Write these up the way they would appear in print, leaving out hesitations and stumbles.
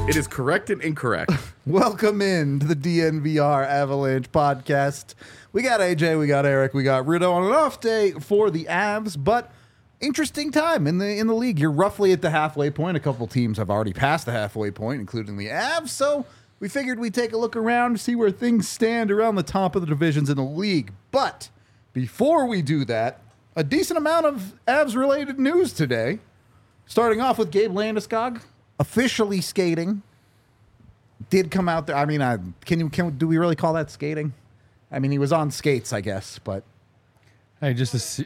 It is correct and incorrect. Welcome in to the DNVR Avalanche podcast. We got AJ, we got Eric, we got Rido on an off day for the Avs, but interesting time in the league. You're roughly at the halfway point. A couple teams have already passed the halfway point, including the Avs, so we figured we'd take a look around, see where things stand around the top of the divisions in the league. But before we do that, a decent amount of Avs-related news today. Starting off with Gabe Landeskog officially skating. Did come out there. I mean, do we really call that skating? I mean, he was on skates, I guess, but Hey, just to see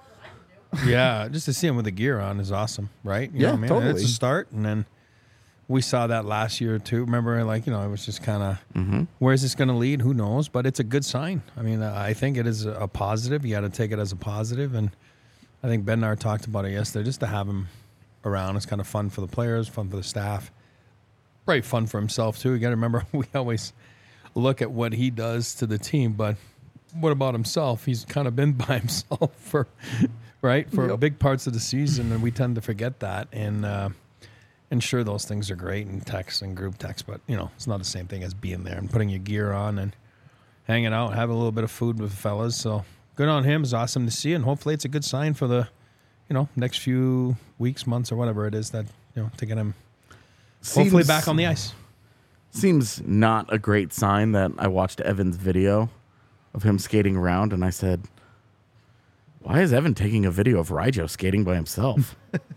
him with the gear on is awesome, right? You Yeah, know what I mean? totally. It's a start, and then we saw that last year too. Remember, it was just kind of, where is this going to lead? Who knows? But it's a good sign. I mean, I think it is a positive. You got to take it as a positive, and I think Ben and I talked about it yesterday. Just to have him around, it's kind of fun for the players, fun for the staff, probably fun for himself too. You got to remember, we always look at what he does to the team, but what about himself? He's kind of been by himself for big parts of the season, and we tend to forget that. And sure, those things are great in text and group text, but it's not the same thing as being there and putting your gear on and hanging out, having a little bit of food with the fellas. So good on him. It's awesome to see, and hopefully it's a good sign for the next few weeks, months, or whatever it is that to get him hopefully back on the ice. Seems not a great sign that I watched Evan's video of him skating around, and I said, why is Evan taking a video of Rijo skating by himself?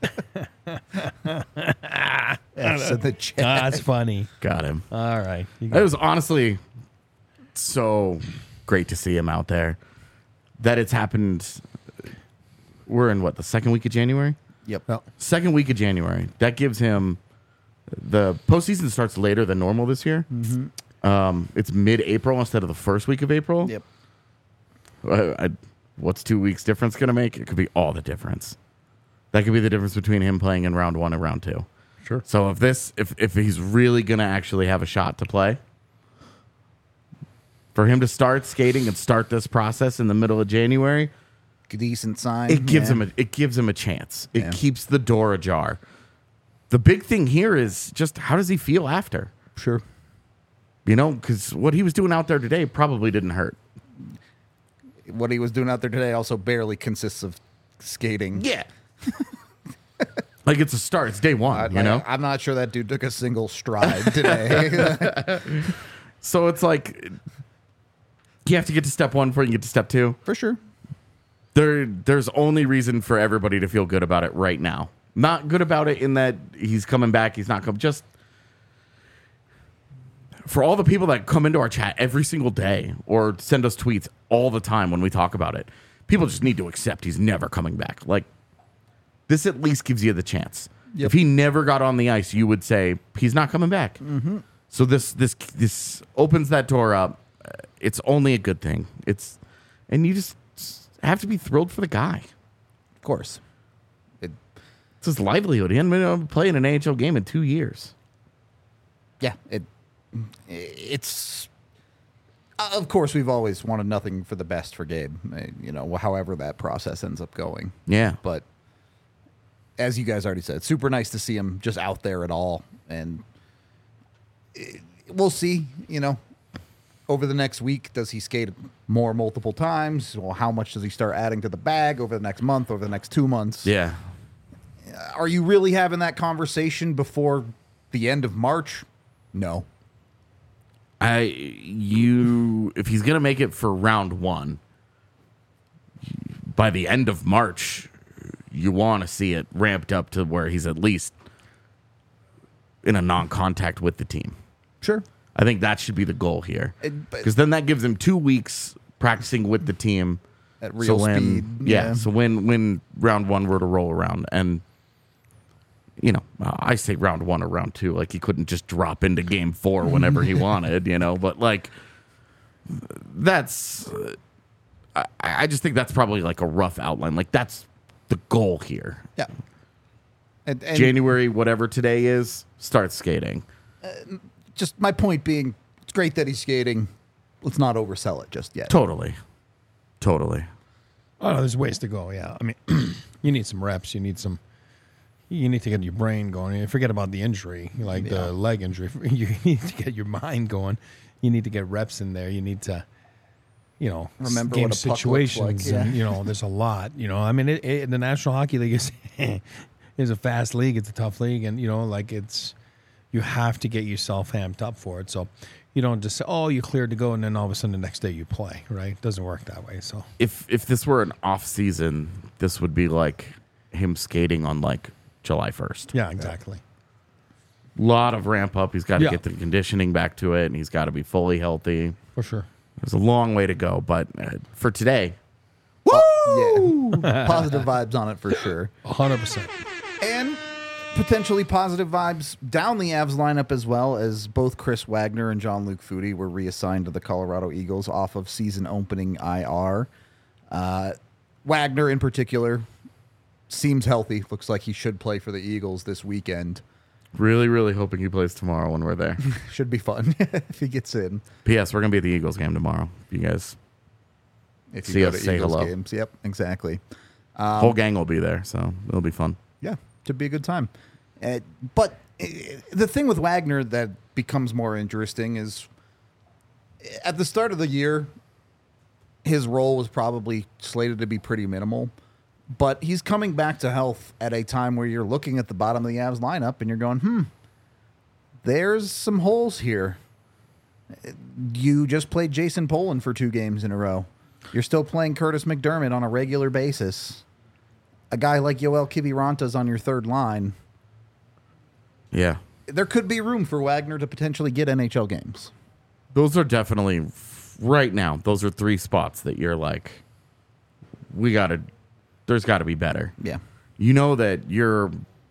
said the chat. That's funny. Got him. All right. It was honestly so great to see him out there. That it's happened. We're in the second week of January? Yep. Well, Second week of January. That gives him the postseason starts later than normal this year. It's mid-April instead of the first week of April. Yep. What's 2 weeks difference going to make? It could be all the difference. That could be the difference between him playing in round one and round two. sure. So if he's really going to actually have a shot to play, for him to start skating and start this process in the middle of January, Decent sign. it gives Yeah. him a chance. It Yeah. keeps the door ajar. The big thing here is just how does he feel after? Sure. Because what he was doing out there today probably didn't hurt. What he was doing out there today also barely consists of skating. Yeah. Like it's a start. It's day one, I'm not sure that dude took a single stride today. So it's like you have to get to step one before you get to step two. For sure. There's only reason for everybody to feel good about it right now. Not good about it in that he's coming back, he's not coming. Just for all the people that come into our chat every single day or send us tweets all the time when we talk about it, people just need to accept he's never coming back. Like, this at least gives you the chance. Yep. If he never got on the ice, you would say he's not coming back. Mm-hmm. So this opens that door up. It's only a good thing. And you just have to be thrilled for the guy. Of course. It's his livelihood. He hasn't been able to play in an AHL game in 2 years. Yeah. It's. Of course, we've always wanted nothing for the best for Gabe, however that process ends up going. Yeah. But as you guys already said, super nice to see him just out there at all. And we'll see, over the next week, does he skate more multiple times? Well, how much does he start adding to the bag over the next month, over the next 2 months? Yeah. Are you really having that conversation before the end of March? No. If he's gonna make it for round one, by the end of March, you want to see it ramped up to where he's at least in a non-contact with the team. Sure. I think that should be the goal here, But- because then that gives him 2 weeks practicing with the team At real speed. Yeah. So when round one were to roll around, and I say round one or round two, like he couldn't just drop into game 4 whenever he wanted, but like that's, I just think that's probably like a rough outline. Like that's the goal here. Yeah. And January, whatever today is, start skating. just my point being, it's great that he's skating. Let's not oversell it just yet. Totally. Oh, no, there's ways to go. Yeah. I mean, you need some reps. You need some you need to get your brain going. You forget about the injury, like the leg injury. You need to get your mind going. You need to get reps in there. You need to, Remember game what a puck situations. looks like, And, there's a lot. I mean, the National Hockey League is a fast league. It's a tough league, and you have to get yourself amped up for it. So you don't just say, "Oh, you cleared to go," and then all of a sudden the next day you play. Right? It doesn't work that way. So If this were an off season, this would be like him skating on like July 1st. yeah, exactly. Lot of ramp up. He's got to Yeah. get the conditioning back to it, and he's got to be fully healthy. For sure. There's a long way to go, but for today, Yeah. Positive vibes on it for sure. 100%. And potentially positive vibes down the Avs lineup as well, as both Chris Wagner and Jean-Luc Foudy were reassigned to the Colorado Eagles off of season opening IR. Wagner in particular seems healthy. Looks like he should play for the Eagles this weekend. really, really hoping he plays tomorrow when we're there. Should be fun if he gets in. P.S. We're going to be at the Eagles game tomorrow. You guys, If you See go us, to say Eagles hello. games. Yep, exactly. whole gang will be there, so it'll be fun. Yeah, should be a good time. But the thing with Wagner that becomes more interesting is at the start of the year, his role was probably slated to be pretty minimal. But he's coming back to health at a time where you're looking at the bottom of the Avs lineup and you're going, there's some holes here. You just played Jason Poland for 2 games in a row. You're still playing Curtis McDermott on a regular basis. A guy like Yoel Kiviranta's on your third line. Yeah. There could be room for Wagner to potentially get NHL games. Those are definitely, right now, those are 3 spots that you're like, there's got to be better. Yeah. You know that you're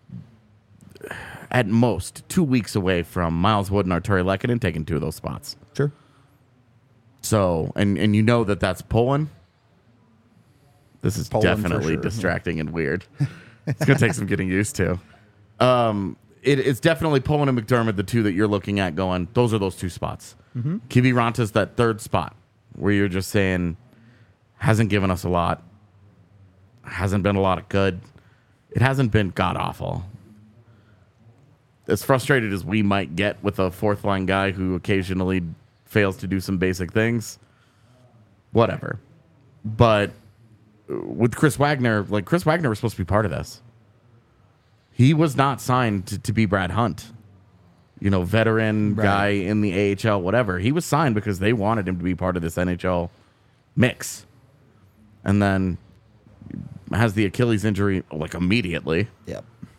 at most 2 weeks away from Miles Wood and Arturi Lehkonen taking 2 of those spots. Sure. So, and you know that that's Poland. This is Poland for definitely sure, yeah. And weird. It's going to take some getting used to. It's definitely Poland and McDermott, the 2 that you're looking at going, those are those 2 spots. Mm-hmm. Kiviranta's that 3rd spot where you're just saying, hasn't given us a lot. Hasn't been a lot of good. It hasn't been god-awful. As frustrated as we might get with a 4th-line guy who occasionally fails to do some basic things, whatever. But with Chris Wagner, Chris Wagner was supposed to be part of this. He was not signed to be Brad Hunt, veteran guy in the AHL, whatever. He was signed because they wanted him to be part of this NHL mix. And then has the Achilles injury immediately. Yep.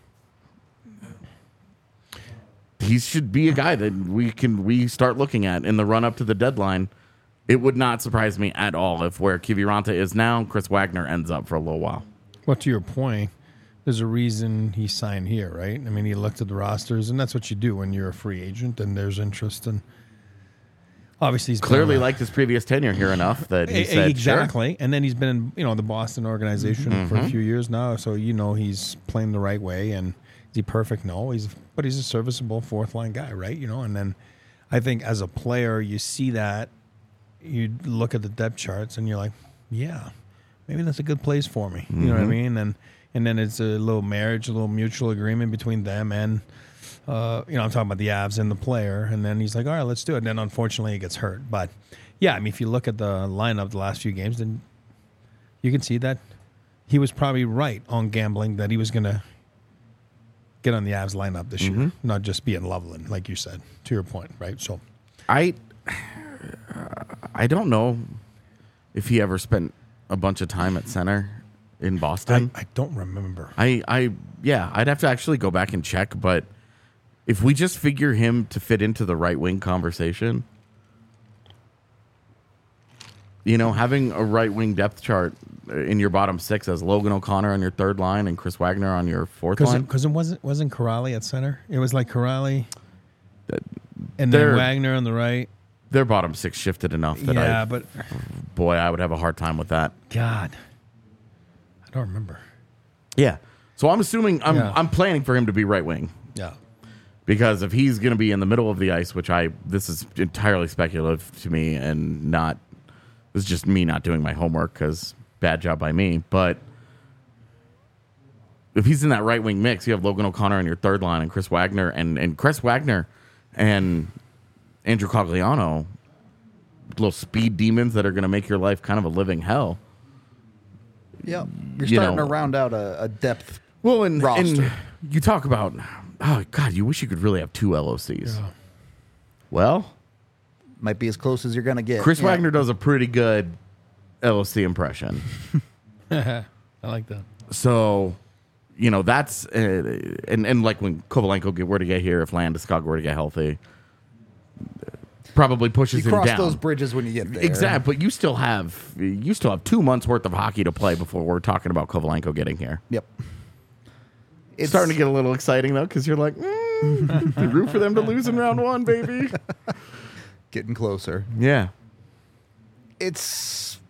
He should be a guy that we start looking at in the run up to the deadline. It would not surprise me at all if where Kiviranta is now, Chris Wagner ends up for a little while. Well, to your point, there's a reason he signed here, right? I mean, he looked at the rosters, and that's what you do when you're a free agent, and there's interest. And obviously, he's Clearly liked his previous tenure here enough that he said, exactly. Sure. And then he's been in, the Boston organization for a few years now, so he's playing the right way. And is he perfect? No, but he's a serviceable 4th-line guy, right? And then I think as a player, you see that. You look at the depth charts and you're like, yeah, maybe that's a good place for me. You know what I mean? And then it's a little marriage, a little mutual agreement between them and, I'm talking about the Avs and the player. And then he's like, all right, let's do it. And then unfortunately he gets hurt. But yeah, I mean, if you look at the lineup the last few games, then you can see that he was probably right on gambling that he was going to get on the Avs lineup this year, not just be in Loveland, like you said, to your point, right? So I don't know if he ever spent a bunch of time at center in Boston. I don't remember. I'd have to actually go back and check, but if we just figure him to fit into the right wing conversation, having a right wing depth chart in your bottom 6 as Logan O'Connor on your 3rd line and Chris Wagner on your 4th line. Because it wasn't Corrali at center. It was like Corrali and then Wagner on the right. Their bottom 6 shifted enough that I would have a hard time with that. God, I don't remember. Yeah. So I'm assuming I'm planning for him to be right wing. Yeah. Because if he's going to be in the middle of the ice, this is entirely speculative to me and this is just me not doing my homework because bad job by me. But if he's in that right wing mix, you have Logan O'Connor on your third line and Chris Wagner and Chris Wagner and Andrew Cogliano, little speed demons that are going to make your life kind of a living hell. Yep. You're You starting know. to round out a depth. Well, and Roster. you talk about, oh God, you wish you could really have 2 LOCs. Yeah. Well, Might be as close as you're going to get. Chris Yeah. Wagner does a pretty good LOC impression. I like that. So, that's and like when Kovalenko were to get here, if Landeskog were to get healthy, probably pushes You him cross down. those bridges when you get there. Exactly, but you still have 2 months worth of hockey to play before we're talking about Kovalenko getting here. Yep. It's starting to get a little exciting though, because you're like, root for them to lose in round 1, baby. getting closer. Yeah. It's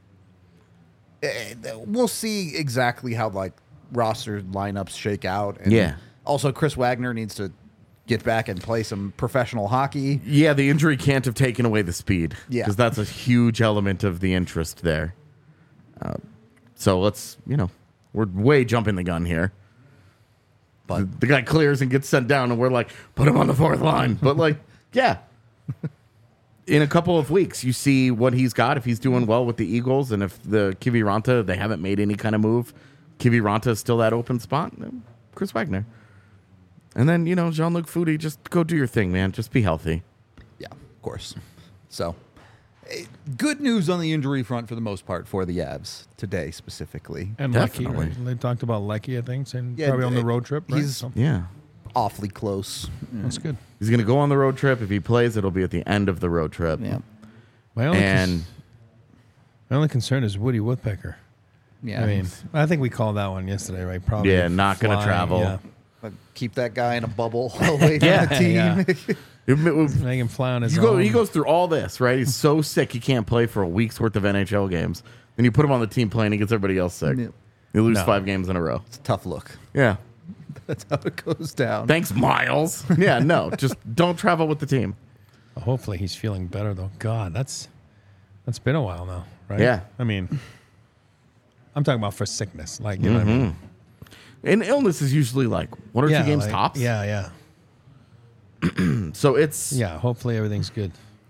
we'll see exactly how like roster lineups shake out. And Yeah. Also, Chris Wagner needs to get back and play some professional hockey. Yeah, the injury can't have taken away the speed. Yeah. Because that's a huge element of the interest there. So let's, we're way jumping the gun here. But The guy clears and gets sent down, and we're like, put him on the 4th line. But, like, yeah. In a couple of weeks, you see what he's got, if he's doing well with the Eagles, and if the Kiviranta, they haven't made any kind of move. Kiviranta is still that open spot. Chris Wagner. And then, Jean-Luc Foudy, just go do your thing, man. Just be healthy. yeah, of course. So good news on the injury front for the most part for the Avs today specifically. And Definitely. Lecky, right? They talked about Lecky, I think, and Yeah, probably on the road trip. Right? he's- So Yeah. Awfully close. that's good. He's going to go on the road trip. If he plays, it'll be at the end of the road trip. Yeah. My only, And my only concern is Woody Woodpecker. Yeah. I mean, I think we called that one yesterday, right? Probably. Yeah, not gonna flying, travel. Yeah. But keep that guy in a bubble away from Yeah, the team. yeah. Make him fly on his own. he goes through all this, right? He's so sick he can't play for a week's worth of NHL games. Then you put him on the team playing, he gets everybody else sick. Yeah. You lose No. 5 games in a row. It's a tough look. Yeah. That's how it goes down. Thanks, Miles. Yeah, no, just don't travel with the team. Hopefully he's feeling better though. God, that's been a while now, right? Yeah. I mean, I'm talking about for sickness, like you know what I mean. And illness is usually like 1 or 2 games like, tops. Yeah, yeah, So it's yeah. Hopefully everything's good.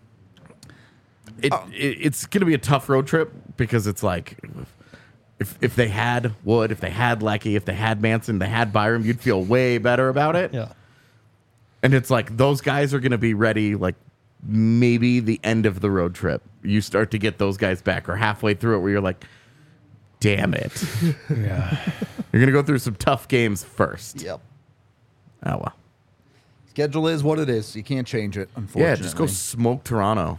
it's going to be a tough road trip because it's like if they had Wood, if they had Lecky, if they had Manson, they had Byram, you'd feel way better about it. Yeah, And it's like those guys are going to be ready like maybe the end of the road trip. You start to get those guys back or halfway through it where you're like, damn it. yeah. You're going to go through some tough games first. Yep. Oh, well. Schedule is what it is. You can't change it, Yeah, unfortunately. just go smoke Toronto.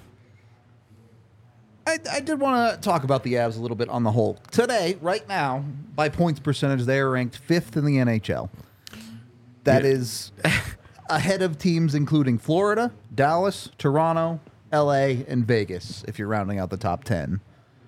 I did want to talk about the Avs a little bit on the whole. Today, right now, by points percentage, they are ranked 5th in the NHL. That Yeah. is ahead of teams including Florida, Dallas, Toronto, LA, and Vegas, if you're rounding out the top 10.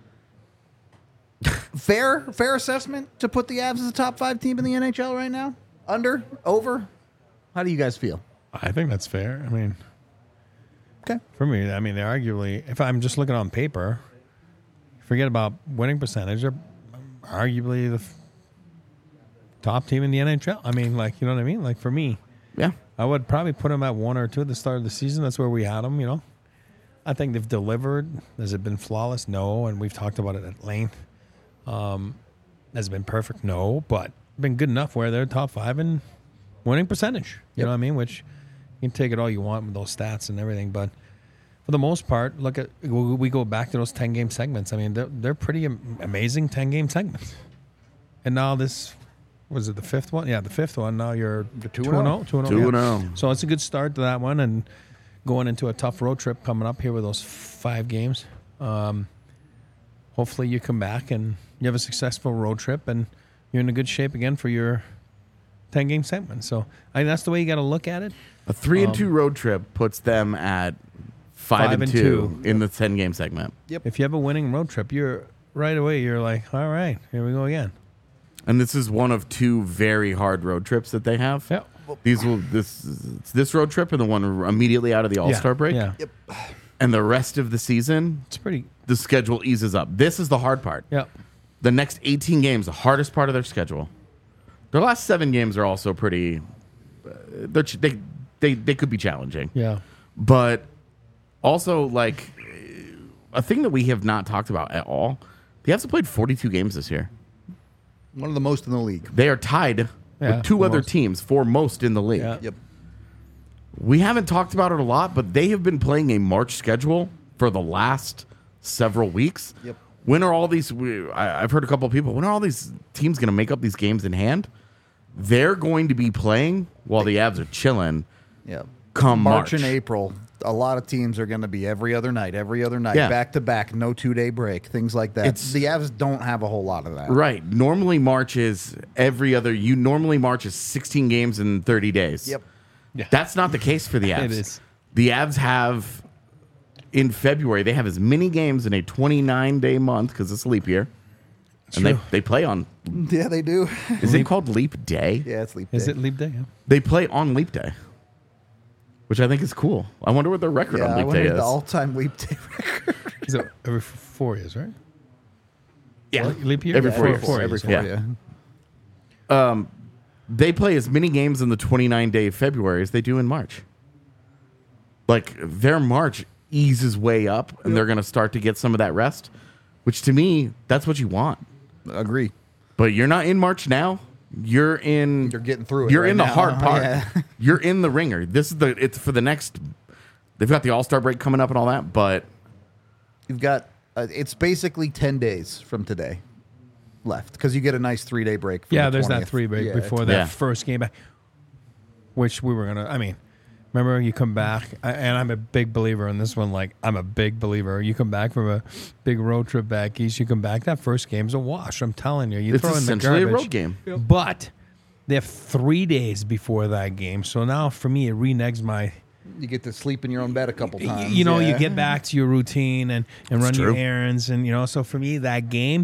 Fair assessment to put the Avs as a top 5 team in the NHL right now? Under? Over? How do you guys feel? I think that's fair. I mean, Okay. for me, I mean, they're arguably, if I'm just looking on paper, forget about winning percentage, they're arguably the top team in the NHL. I mean, like, you know what I mean? Like, for me, Yeah. I would probably put them at 1 or 2 at the start of the season. That's where we had them, you know. I think they've delivered. Has it been flawless? No. And we've talked about it at length. Has it been perfect? No. But been good enough where they're top 5 in winning percentage. You know what I mean? Which you can take it all you want with those stats and everything. But for the most part, look at we go back to those 10-game segments. I mean, they're pretty amazing 10-game segments. And now this, was it the 5th one? Yeah, the 5th one. Now you're 2-0. 2-0. 2-0. So it's a good start to that one, and going into a tough road trip coming up here with those 5 games. Hopefully you come back and you have a successful road trip, and you're in a good shape again for your 10-game segment. So I think that's the way you got to look at it. A 3-2 road trip puts them at 5-2 in the 10-game segment. If you have a winning road trip, you're right away. You're like, all right, here we go again. And this is one of 2 very hard road trips that they have. Yeah. This road trip and the one immediately out of the All-Star break. Yeah, And the rest of the season, it's pretty. the schedule eases up. This is the hard part. Yeah, The next 18 games, the hardest part of their schedule. Their last 7 games are also pretty. They could be challenging. Yeah. But also, like, a thing that we have not talked about at all, the Avs have played 42 games this year. One of the most in the league. They are tied Yeah, with 2 for other most. teams for most in the league. Yeah. Yep. We haven't talked about it a lot, but they have been playing a March schedule for the last several weeks. Yep. When are all these? I've heard a couple of people. When are all these teams going to make up these games in hand? They're going to be playing while the Avs are chilling. Yep. Come March. and April, a lot of teams are going to be every other night, Yeah. back to back, no 2-day break, things like that. The Avs don't have a whole lot of that. Right. Normally March is every other. March is 16 games in 30 days. Yep. Yeah. That's not the case for the Avs. It is. The Avs have, in February, they have as many games in a 29-day month because it's a leap year. And True. they play on, Yeah, they do. is it called leap day? Yeah, it's leap day. Is it leap day? Yeah. They play on leap day, which I think is cool. I wonder what their record Yeah, on I leap wonder day what is. the all-time leap day record. Is it every 4 years, right? Yeah. Leap year? Every 4 years. Every four, Yeah. yeah. They play as many games in the 29-day February as they do in March. Like, their March eases way up, and they're going to start to get some of that rest, which to me, that's what you want. Agree. But you're not in March now. You're getting through it You're right in the now. hard part. Yeah. You're in the ringer. It's for the next. They've got the All-Star break coming up and all that, but You've got, it's basically 10 days from today left because you get a nice 3-day break. From Yeah, the there's 20th. that 3 break Yeah, before it's- that Yeah. first game back, which we were going to, I mean, remember you come back, and I'm a big believer in this one. Like, I'm a big believer. You come back from a big road trip back east, you come back, that first game's a wash. I'm telling you. You it's throw in the essentially a garbage. road game. But they have 3 days before that game. So now for me, it reneges my. You get to sleep in your own bed a couple times. You know, yeah. you get back to your routine and run your true. errands. And, so for me, that game,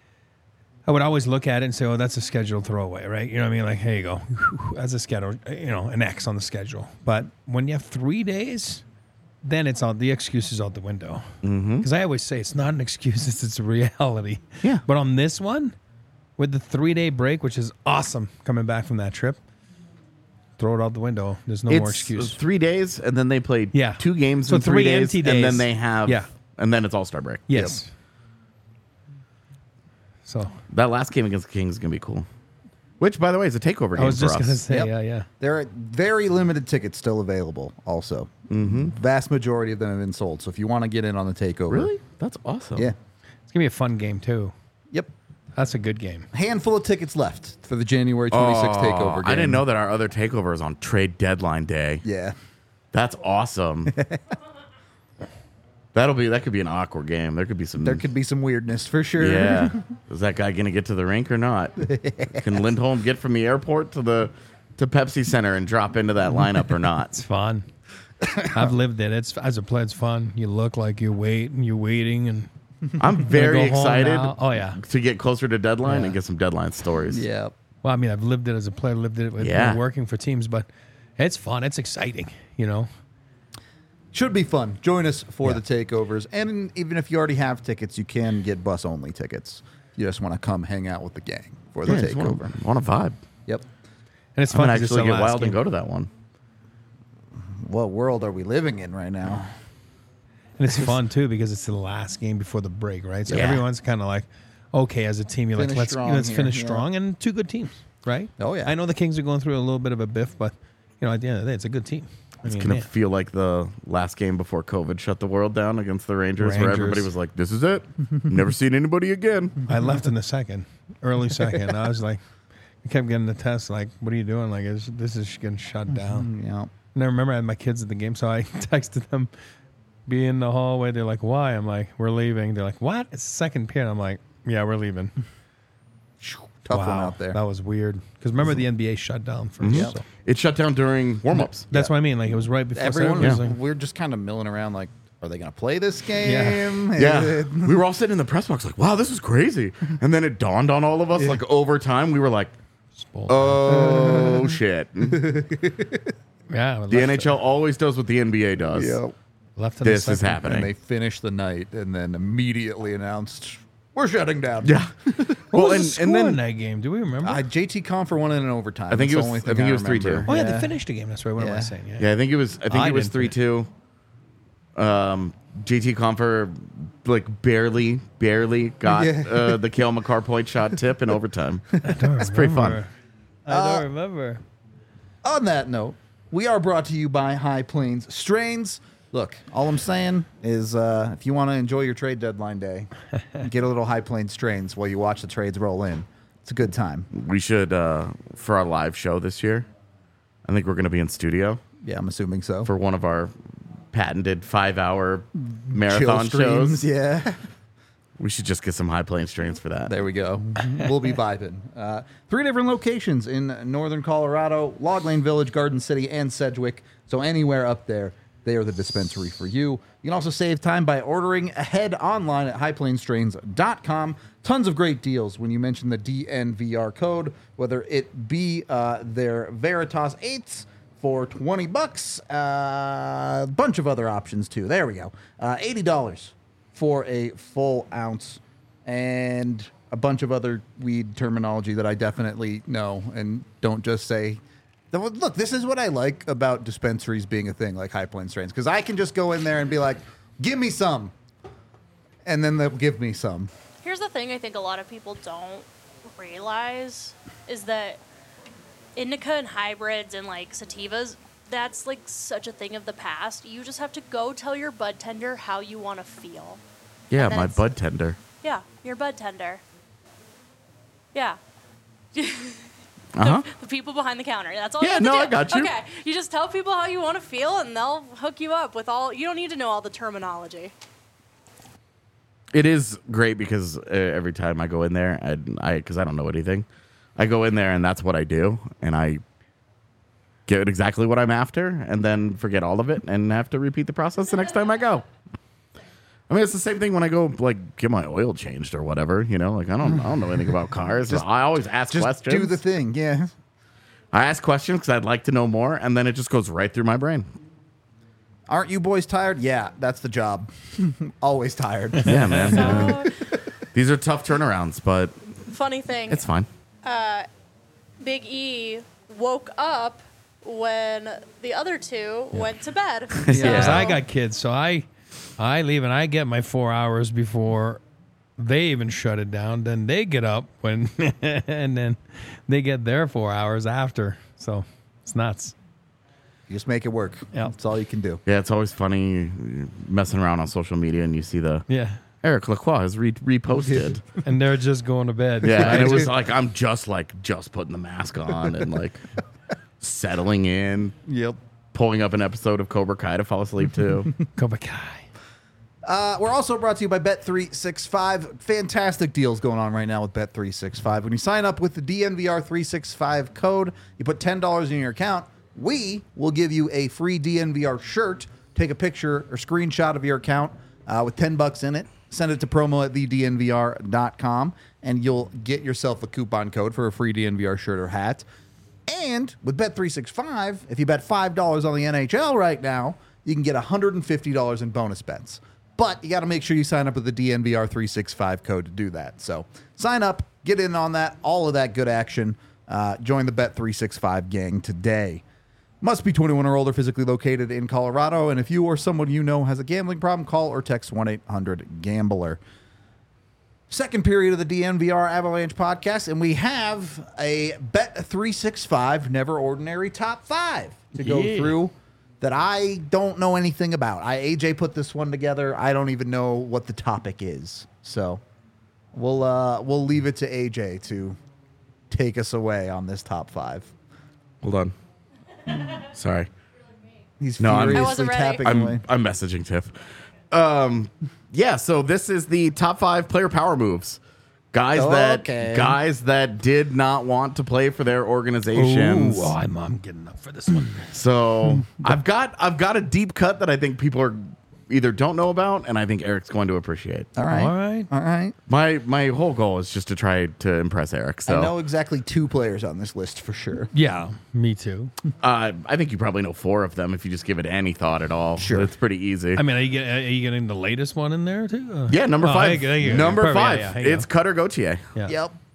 I would always look at it and say, oh, that's a scheduled throwaway, right? You know what I mean? Like, here you go. That's a schedule, an X on the schedule. But when you have 3 days, then it's all, the excuse is out the window. Because I always say it's not an excuse, it's a reality. Yeah. But on this one, with the 3-day break, which is awesome coming back from that trip, throw it out the window. There's no more It's excuse. 3 days, and then they played Yeah. 2 games So in 3 3 days, empty and then days. they have, Yeah. and then it's All-Star break. Yes. So That last game against the Kings is going to be cool. Which, by the way, is a takeover game I was for just us. going to say, Yep. yeah. There are very limited tickets still available also. Mm-hmm. Vast majority of them have been sold. So if you want to get in on the takeover. Really? That's awesome. Yeah. It's going to be a fun game, too. Yep. That's a good game. Handful of tickets left for the January 26th takeover game. I didn't know that our other takeover is on trade deadline day. Yeah. That's awesome. That could be an awkward game. There could be some. There could be some weirdness for sure. Yeah. Is that guy going to get to the rink or not? Can Lindholm get from the airport to Pepsi Center and drop into that lineup or not? It's fun. I've lived it. It's as a player, it's fun. You look like you're waiting, and I'm very go home excited now. Oh, yeah. to get closer to deadline Yeah. and get some deadline stories. Yeah. well, I mean, I've lived it as a player, lived it with Yeah. working for teams, but it's fun. It's exciting. Should be fun. Join us for Yeah. the takeovers. And even if you already have tickets, you can get bus only tickets. You just want to come hang out with the gang for the Yeah, just takeover. want to vibe. Yep. And it's I'm fun going to to actually get wild and go to that one. What world are we living in right now? And it's fun too because it's the last game before the break, right? So Yeah. everyone's kind of like, okay, as a team, you're Finish like, strong let's here, finish yeah. strong, and 2 good teams, right? Oh, yeah. I know the Kings are going through a little bit of a biff, but at the end of the day, it's a good team. It's going to feel like the last game before COVID shut the world down against the Rangers, where everybody was like, this is it. Never seen anybody again. I left in the early second. I was like, I kept getting the test, like, what are you doing? Like, this is getting shut down. Yeah. And I remember I had my kids at the game, so I texted them, be in the hallway. They're like, why? I'm like, we're leaving. They're like, what? It's second period. I'm like, yeah, we're leaving. Tough one Wow, out there. That was weird. Because remember, the NBA shut down first. Yep. So. It shut down during warm-ups. That's what I mean. Like, it was right before. Everyone, so everyone was like, we're just kind of milling around like, are they going to play this game? Yeah. We were all sitting in the press box like, wow, this is crazy. And then it dawned on all of us, like, over time, we were like, Spoiled. oh, shit. Yeah, The NHL always does what the NBA does. Yep. left in This the is second. And they happening. finished the night and then immediately announced, we're shutting down. Yeah. What Well, was and- the score and then- in that game? Do we remember? JT Confer won it in overtime. I think That's it the was- only I thing think it was remember. 3-2. oh yeah, they finished the game. That's right. What am I Yeah. saying? Yeah, I think it was. I think I it was didn't 3-2. JT Confer like barely got Yeah. the Kale McCarr point shot tip in overtime. It's pretty fun. I don't remember. On that note, we are brought to you by High Plains Strains. Look, all I'm saying is if you want to enjoy your trade deadline day, get a little High Plains Strains while you watch the trades roll in. It's a good time. We should for our live show this year. I think we're going to be in studio Yeah, I'm assuming so. for one of our patented 5-hour Chill marathon streams, shows. yeah. We should just get some High Plains strains for that. There we go. We'll be vibing. 3 different locations in northern Colorado: Log Lane Village, Garden City, and Sedgwick. So anywhere up there, they are the dispensary for you. You can also save time by ordering ahead online at highplainstrains.com. Tons of great deals when you mention the DNVR code, whether it be their Veritas 8s for $20, a bunch of other options too. There we go. $80 for a full ounce, and a bunch of other weed terminology that I definitely know and don't just say. Look, this is what I like about dispensaries being a thing, like High Plains Strains, because I can just go in there and be like, give me some, and then they'll give me some. Here's the thing I think a lot of people don't realize is that indica and hybrids and like sativas, that's like such a thing of the past. You just have to go tell your bud tender how you want to feel. Yeah, And then my it's- bud tender. Yeah, your bud tender. Yeah. Uh-huh. The people behind the counter. That's all Yeah, you have to no, do. I got you. Okay. You just tell people how you want to feel and they'll hook you up with all. You don't need to know all the terminology. It is great because every time I go in there, because I don't know anything, I go in there and that's what I do, and I get exactly what I'm after, and then forget all of it and have to repeat the process the next time I go. I mean, it's the same thing when I go like get my oil changed or whatever. You know, like I don't know anything about cars. I always ask Just questions. do the thing, yeah. I ask questions because I'd like to know more, and then it just goes right through my brain. Aren't you boys tired? Yeah, that's the job. Always tired. Yeah, man. So, These are tough turnarounds, but funny thing. it's fine. Big E woke up when the other two went to bed. Yeah, 'cause So- I got kids, so I leave and I get my 4 hours before they even shut it down. Then they get up when, and then they get their 4 hours after. So it's nuts. You just make it work. Yeah. That's all you can do. Yeah, it's always funny messing around on social media and you see the Yeah, Eric Lacroix has reposted. and they're just going to bed. Yeah, and it was like I'm just putting the mask on and like settling in, Yep. pulling up an episode of Cobra Kai to fall asleep to. Cobra Kai. We're also brought to you by Bet365. Fantastic deals going on right now with Bet365. When you sign up with the DNVR365 code, you put $10 in your account, we will give you a free DNVR shirt. Take a picture or screenshot of your account with $10 in it. Send it to promo@thednvr.com, and you'll get yourself a coupon code for a free DNVR shirt or hat. And with Bet365, if you bet $5 on the NHL right now, you can get $150 in bonus bets. But you got to make sure you sign up with the DNVR365 code to do that. So sign up, get in on that, all of that good action. Join the Bet365 gang today. Must be 21 or older, physically located in Colorado. And if you or someone you know has a gambling problem, call or text 1-800-GAMBLER. Second period of the DNVR Avalanche podcast, and we have a Bet365 Never Ordinary Top 5 to go through that I don't know anything about. AJ put this one together. I don't even know what the topic is. So we'll leave it to AJ to take us away on this top 5. Hold on. Sorry. He's No, I'm- I furiously wasn't ready. tapping away. I'm messaging Tiff. Yeah, so this is the top 5 player power moves. Guys that did not want to play for their organizations. Ooh, I'm getting up for this one. So I've got a deep cut that I think people are either don't know about, and I think Eric's going to appreciate. All right. All right. All right. My whole goal is just to try to impress Eric. So I know exactly 2 players on this list for sure. Yeah, me too. I think you probably know 4 of them if you just give it any thought at all. Sure. It's pretty easy. I mean, are you getting the latest one in there too? Yeah, number 5. thank you. Number Perfect. 5. Yeah, yeah, here you It's go. Cutter Gauthier. Yeah. Yep.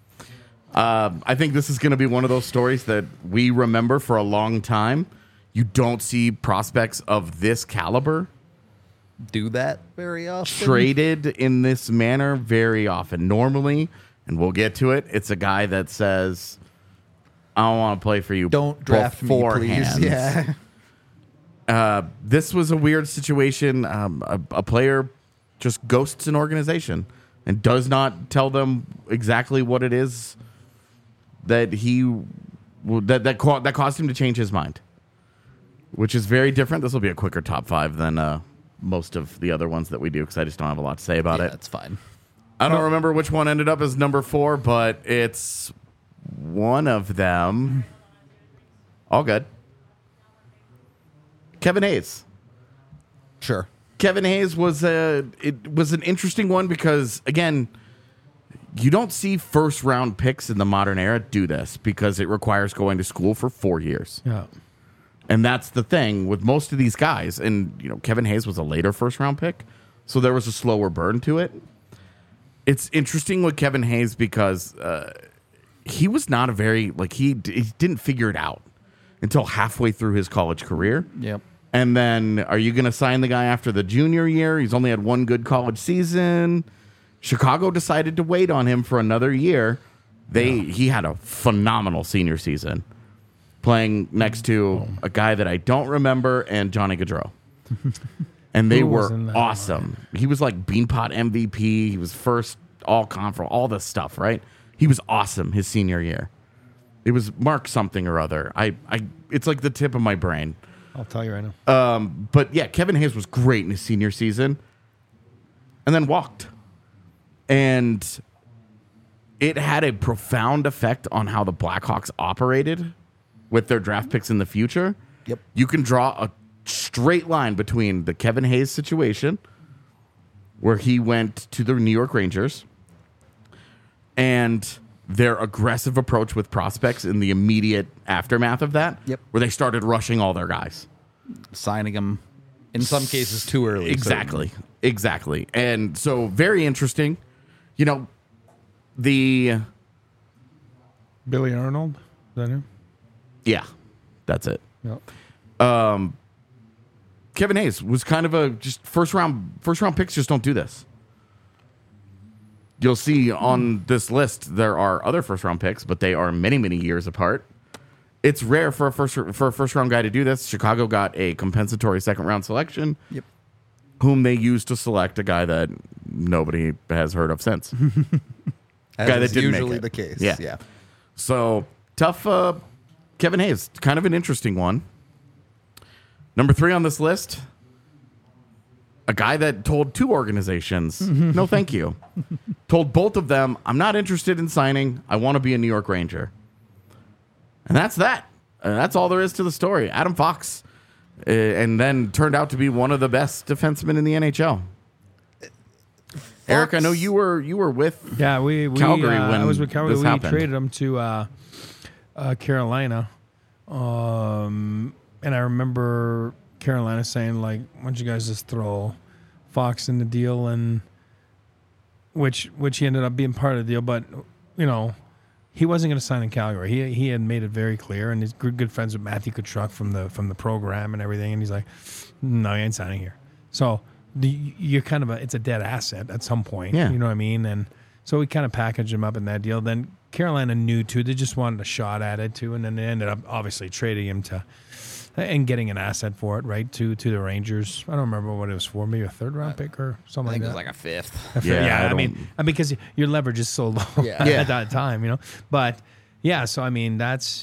I think this is going to be one of those stories that we remember for a long time. You don't see prospects of this caliber Do that very often. traded in this manner very often. Normally, and we'll get to it, it's a guy that says, I don't want to play for you. Don't draft me, please. beforehand." Yeah. This was a weird situation. A player just ghosts an organization and does not tell them exactly what it is that that caused him to change his mind, which is very different. This will be a quicker top 5 than most of the other ones that we do because I just don't have a lot to say about it. That's fine. I don't remember which one ended up as number 4, but it's one of them. All good. Kevin Hayes. Sure. Kevin Hayes was an interesting one because, again, you don't see first round picks in the modern era do this because it requires going to school for 4 years. Yeah. And that's the thing with most of these guys. And, Kevin Hayes was a later first round pick, so there was a slower burn to it. It's interesting with Kevin Hayes because he was not a very, he didn't figure it out until halfway through his college career. Yep. And then are you going to sign the guy after the junior year? He's only had one good college season. Chicago decided to wait on him for another year. He had a phenomenal senior season playing next to a guy that I don't remember and Johnny Gaudreau. And they Who was were in that awesome. He was like Beanpot MVP. He was first all conference, all this stuff, right? He was awesome his senior year. It was Mark something or other. It's like the tip of my brain. I'll tell you right now. But yeah, Kevin Hayes was great in his senior season and then walked. And it had a profound effect on how the Blackhawks operated with their draft picks in the future. Yep. You can draw a straight line between the Kevin Hayes situation, where he went to the New York Rangers, and their aggressive approach with prospects in the immediate aftermath of that, Yep. where they started rushing all their guys. Signing them in some cases too early. Exactly. Exactly. And so very interesting. The Billy Arnold. Is that him? yeah, that's it. Yeah. Kevin Hayes was kind of a just first round picks just don't do this. You'll see on this list there are other first round picks, but they are many, many years apart. It's rare for a first round guy to do this. Chicago got a compensatory second round selection, Yep. whom they used to select a guy that nobody has heard of since. As Guy that is didn't make usually it. the case. Yeah. Yeah. So tough. Kevin Hayes, kind of an interesting one. Number 3 on this list, a guy that told 2 organizations, no, thank you. Told both of them, I'm not interested in signing. I want to be a New York Ranger. And that's that. That's all there is to the story. Adam Fox, and then turned out to be one of the best defensemen in the NHL. Eric, I know you were with Yeah, we Calgary when I was with Calgary. this We happened. traded him to Carolina, and I remember Carolina saying, like, "Why don't you guys just throw Fox in the deal?" And which he ended up being part of the deal, but he wasn't going to sign in Calgary. He had made it very clear, and he's good friends with Matthew Tkachuk from the program and everything. And he's like, "No, I ain't signing here." So you're kind of it's a dead asset at some point. Yeah. You know what I mean? And so we kind of packaged him up in that deal. Then Carolina knew too; they just wanted a shot at it too, and then they ended up obviously trading him and getting an asset for it, right? To the Rangers. I don't remember what it was for, maybe a 3rd round pick or something I think like it was that. like a 5th. Yeah, I mean, because your leverage is so low Yeah. Yeah. at that time, But yeah, so I mean,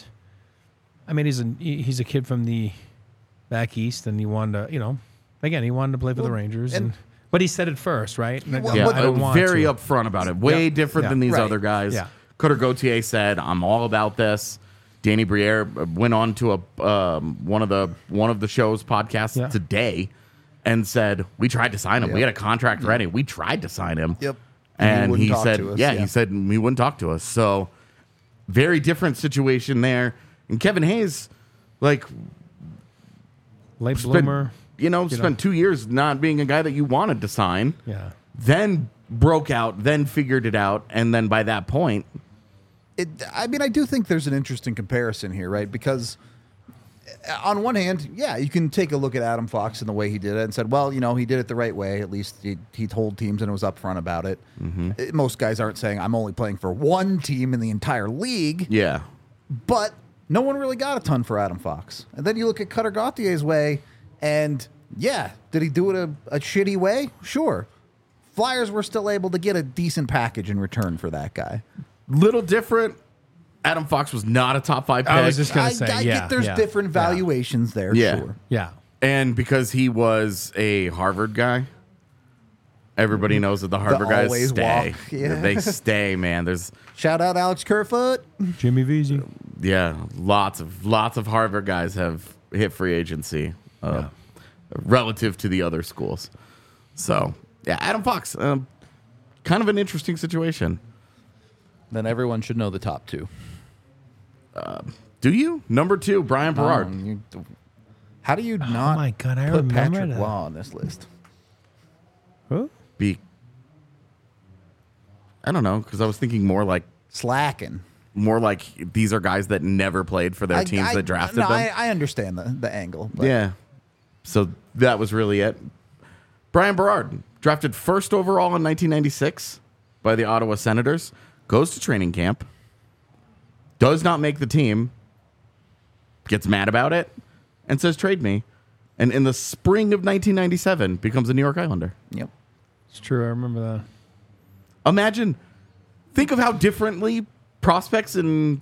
he's a kid from the back east, and he wanted to, he wanted to play for the Rangers, but he said it first, right? Like, Well, Yeah, I don't want very to. upfront about it. Way Yeah. different Yeah. than these Right. other guys. Yeah. Cutter Gauthier said, "I'm all about this." Danny Briere went on to one of the show's podcasts Yeah. today and said, "We tried to sign him. We Yep. had a contract ready. We tried to sign him." Yep. And wouldn't he talk said, to us, he said he wouldn't talk to us. So very different situation there. And Kevin Hayes, like, Late spent, bloomer. spent 2 years not being a guy that you wanted to sign. Yeah. Then broke out, then figured it out, and then by that point, I mean, I do think there's an interesting comparison here, right? Because on one hand, yeah, you can take a look at Adam Fox and the way he did it and said, well, he did it the right way. At least he told teams and it was upfront about it. Most guys aren't saying, I'm only playing for one team in the entire league. Yeah. But no one really got a ton for Adam Fox. And then you look at Cutter Gauthier's way, and yeah, did he do it a shitty way? Sure. Flyers were still able to get a decent package in return for that guy. Little different. Adam Fox was not a top 5 pick. I was just going to say, I get there's different valuations there, Yeah. sure. Yeah. And because he was a Harvard guy, everybody knows that the Harvard guys always stay. walk, yeah. They stay, man. There's Shout out Alex Kerfoot. Jimmy Vesey. lots of Harvard guys have hit free agency relative to the other schools. So yeah, Adam Fox, kind of an interesting situation. Then everyone should know the top 2. Do you? Number 2, Brian Berard. How do you not my God, I put remember Patrick that. Waugh on this list? Who? I don't know, because I was thinking more like Slacking. these are guys that never played for their teams that drafted them. I understand the angle. But Yeah. So that was really it. Brian Berard, drafted first overall in 1996 by the Ottawa Senators, goes to training camp, does not make the team, gets mad about it, and says, trade me. And in the spring of 1997, becomes a New York Islander. Yep. It's true. I remember that. Imagine, think of how differently prospects and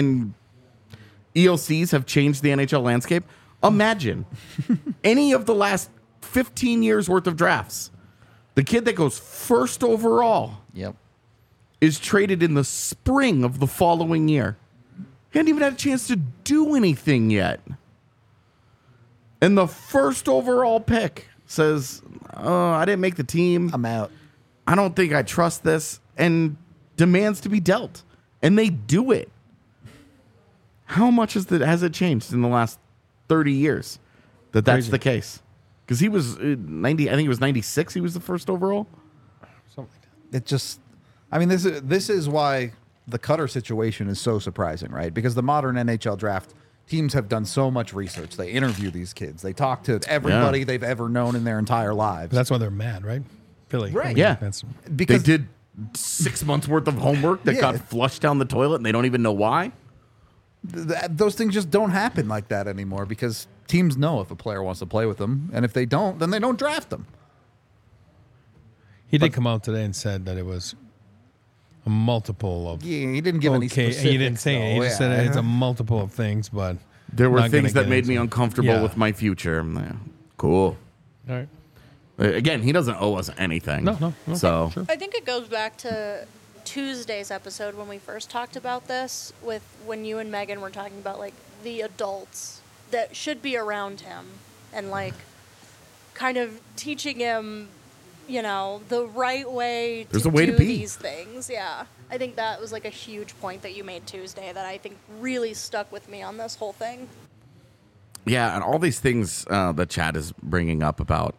ELCs have changed the NHL landscape. Imagine any of the last 15 years worth of drafts. The kid that goes first overall Yep. is traded in the spring of the following year. He hadn't even had a chance to do anything yet. And the first overall pick says, oh, I didn't make the team. I'm out. I don't think I trust this, and demands to be dealt. And they do it. How much has it changed in the last 30 years that's Crazy. the case? Because he was 90, I think it was 96 he was the first overall. Something like that. It just, I mean, this is why the Cutter situation is so surprising, right? Because the modern NHL draft, teams have done so much research. They interview these kids. They talk to everybody they've ever known in their entire lives. But that's why they're mad, right? Philly. Right. Yeah. That's Because They did 6 months worth of homework that Yeah. got flushed down the toilet, and they don't even know why. those things just don't happen like that anymore because teams know if a player wants to play with them. And if they don't, then they don't draft them. He did come out today and said that it was a multiple of. Yeah, he didn't give any Okay, specifics. he didn't say it. He though. just said it's a multiple of things, but There were not gonna things that get made me into it. uncomfortable Yeah. with my future. I'm like, cool. All right. Again, he doesn't owe us anything. No. So Sure. I think it goes back to Tuesday's episode when we first talked about this, with when you and Megan were talking about like the adults that should be around him and like kind of teaching him, the right way There's to a way do to be. these things. Yeah. I think that was like a huge point that you made Tuesday that I think really stuck with me on this whole thing. yeah, and all these things that Chad is bringing up about,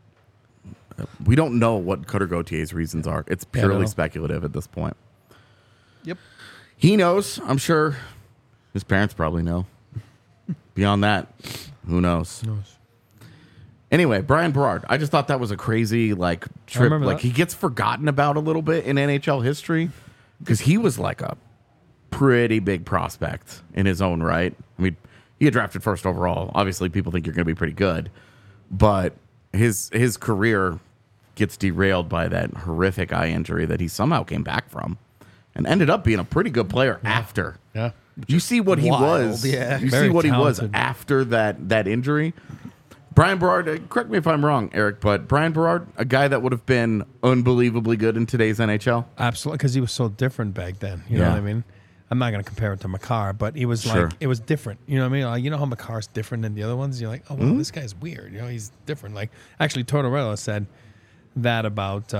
we don't know what Cutter Gautier's reasons are. It's Yeah, I don't purely know. speculative at this point. Yep. He knows. I'm sure his parents probably know. Beyond that, who knows? Anyway, Brian Berard. I just thought that was a crazy trip. remember Like that. he gets forgotten about a little bit in NHL history because he was like a pretty big prospect in his own right. I mean, he had drafted first overall. Obviously, people think you're going to be pretty good, but his career gets derailed by that horrific eye injury that he somehow came back from, and ended up being a pretty good player after. Yeah. You see what he wild, was. yeah. You Very see what he was talented. after that injury. Brian Berard, correct me if I'm wrong, Eric, but Brian Berard, a guy that would have been unbelievably good in today's NHL. Absolutely, because he was so different back then. You know Yeah. what I mean? I'm not going to compare it to Makar, but he was Sure. like, it was different. You know what I mean? Like, you know how Makar's different than the other ones? You're like, oh, Mm-hmm. wow, this guy's weird. You know, he's different. Like, actually, Tortorella said that about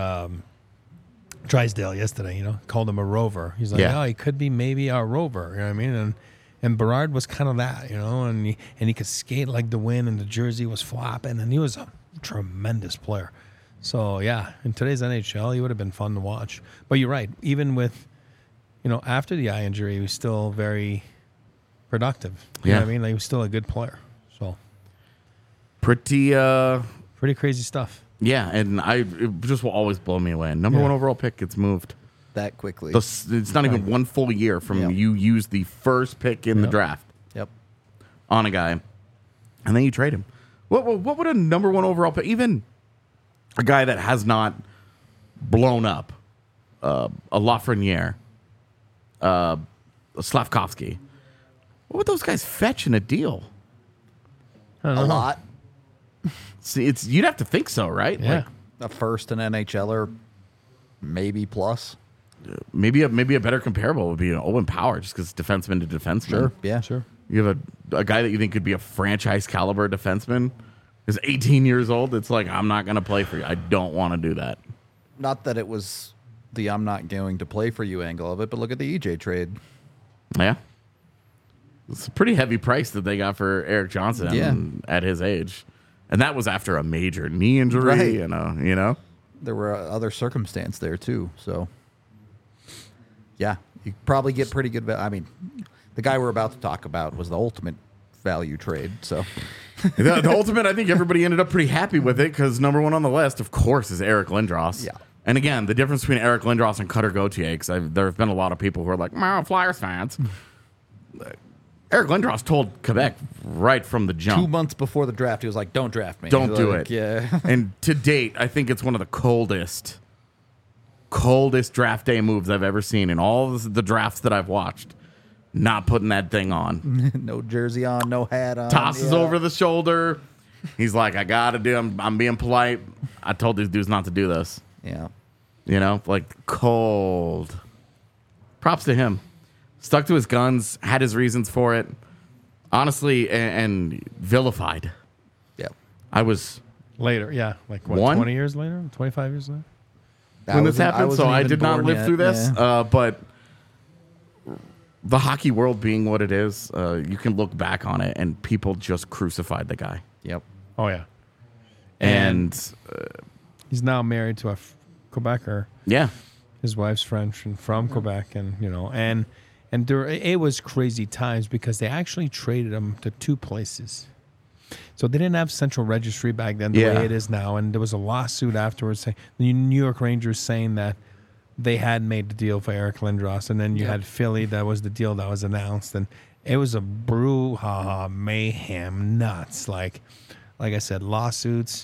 Drysdale yesterday, called him a rover. He's like, Yeah. oh, he could be maybe a rover. You know what I mean? And Berard was kind of that, and he could skate like the wind, and the jersey was flopping, and he was a tremendous player. So, yeah, in today's NHL, he would have been fun to watch. But you're right. Even with after the eye injury, he was still very productive. You know what I mean? Like, he was still a good player. So Pretty crazy stuff. yeah, and it just will always blow me away. Number Yeah. 1 overall pick gets moved. That quickly. It's not even one full year from Yep. you use the first pick in the Yep. draft Yep. on a guy, and then you trade him. What would a number 1 overall pick, even a guy that has not blown up, a Lafreniere, a Slavkovsky, what would those guys fetch in a deal? I don't A know. lot. See, you'd have to think so, right? Yeah. Like, A first and NHLer, maybe plus. maybe a better comparable would be an Owen Power, just because defenseman to defenseman. Yeah. Sure. You have a guy that you think could be a franchise caliber defenseman is 18 years old. It's like, I'm not going to play for you. I don't want to do that. Not that it was the I'm not going to play for you angle of it, but look at the EJ trade. Yeah. It's a pretty heavy price that they got for Eric Johnson Yeah. at his age. And that was after a major knee injury, Right. you know? There were other circumstance there too. So, yeah, you probably get pretty good. I mean, the guy we're about to talk about was the ultimate value trade. So, the ultimate, I think everybody ended up pretty happy with it because number 1 on the list, of course, is Eric Lindros. Yeah. And again, the difference between Eric Lindros and Cutter Gauthier, because there have been a lot of people who are like, Flyers fans. Eric Lindros told Quebec right from the jump. 2 months before the draft, he was like, "Don't draft me. Don't do Like, it. Yeah. And to date, I think it's one of the coldest draft day moves I've ever seen in all of the drafts that I've watched. Not putting that thing on. No jersey on, no hat on. Tosses yeah. over the shoulder. He's like, I got to do I'm being polite. I told these dudes not to do this. Yeah. Like cold. Props to him. Stuck to his guns, had his reasons for it. Honestly, and vilified. Yeah. I was Later, yeah. Like, what, One? 20 years later? 25 years later? when this happened, so wasn't I even did not born live yet. through this. Yeah. But the hockey world being what it is, you can look back on it, and people just crucified the guy. Yep. Oh, yeah. And He's now married to a Quebecer. yeah, His wife's French and from Quebec, and it was crazy times because they actually traded him to 2 places. So they didn't have central registry back then the Yeah. way it is now, and there was a lawsuit afterwards saying the New York Rangers saying that they had made the deal for Eric Lindros, and then you had Philly, that was the deal that was announced, and it was a brouhaha, mayhem, nuts. Like I said, lawsuits.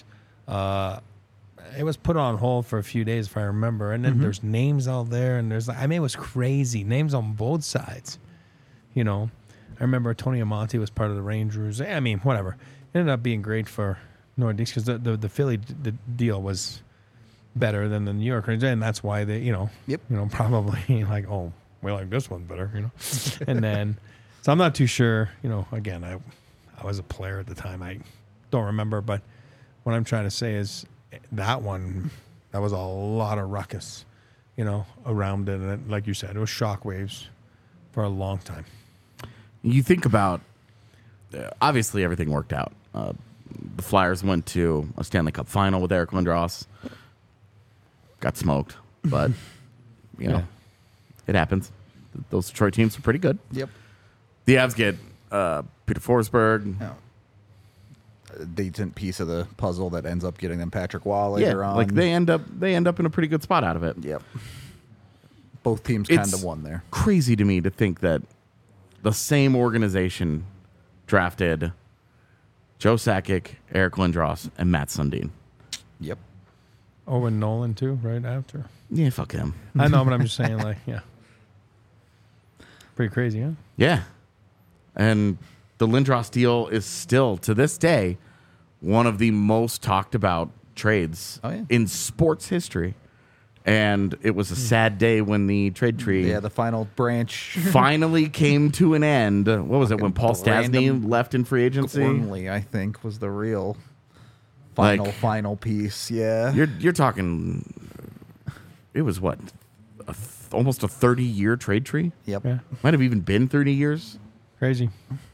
It was put on hold for a few days, if I remember, and then there's names out there, and it was crazy, names on both sides. I remember Tony Amonte was part of the Rangers. I mean, whatever. It ended up being great for Nordiques because the Philly deal was better than the New York Rangers, and that's why they, Yep. probably like, oh, we like this one better, and then, so I'm not too sure. Again, I was a player at the time. I don't remember, but what I'm trying to say is that was a lot of ruckus, around it, and like you said, it was shockwaves for a long time. you think about obviously everything worked out. The Flyers went to a Stanley Cup final with Eric Lindros. Got smoked, but Yeah. it happens. Those Detroit teams are pretty good. Yep. The Avs get Peter Forsberg. Yeah. A decent piece of the puzzle that ends up getting them Patrick Waugh later on. like they end up in a pretty good spot out of it. Yep. Both teams It's kind of won there. crazy to me to think that the same organization drafted Joe Sakic, Eric Lindros, and Matt Sundin. Yep. Owen Nolan too, right after. Yeah, fuck him. I know, but I'm just saying, like, yeah, pretty crazy, huh? Yeah. And the Lindros deal is still, to this day, one of the most talked about trades in sports history. And it was a sad day when the trade tree Yeah, the final branch. finally came to an end. What was it, when Paul Stastny Brandon left in free agency? Gormley, I think, was the real Like- final piece. Yeah. You're talking, it was what, almost a 30-year trade tree? Yep. Yeah, Might have even been 30 years. crazy.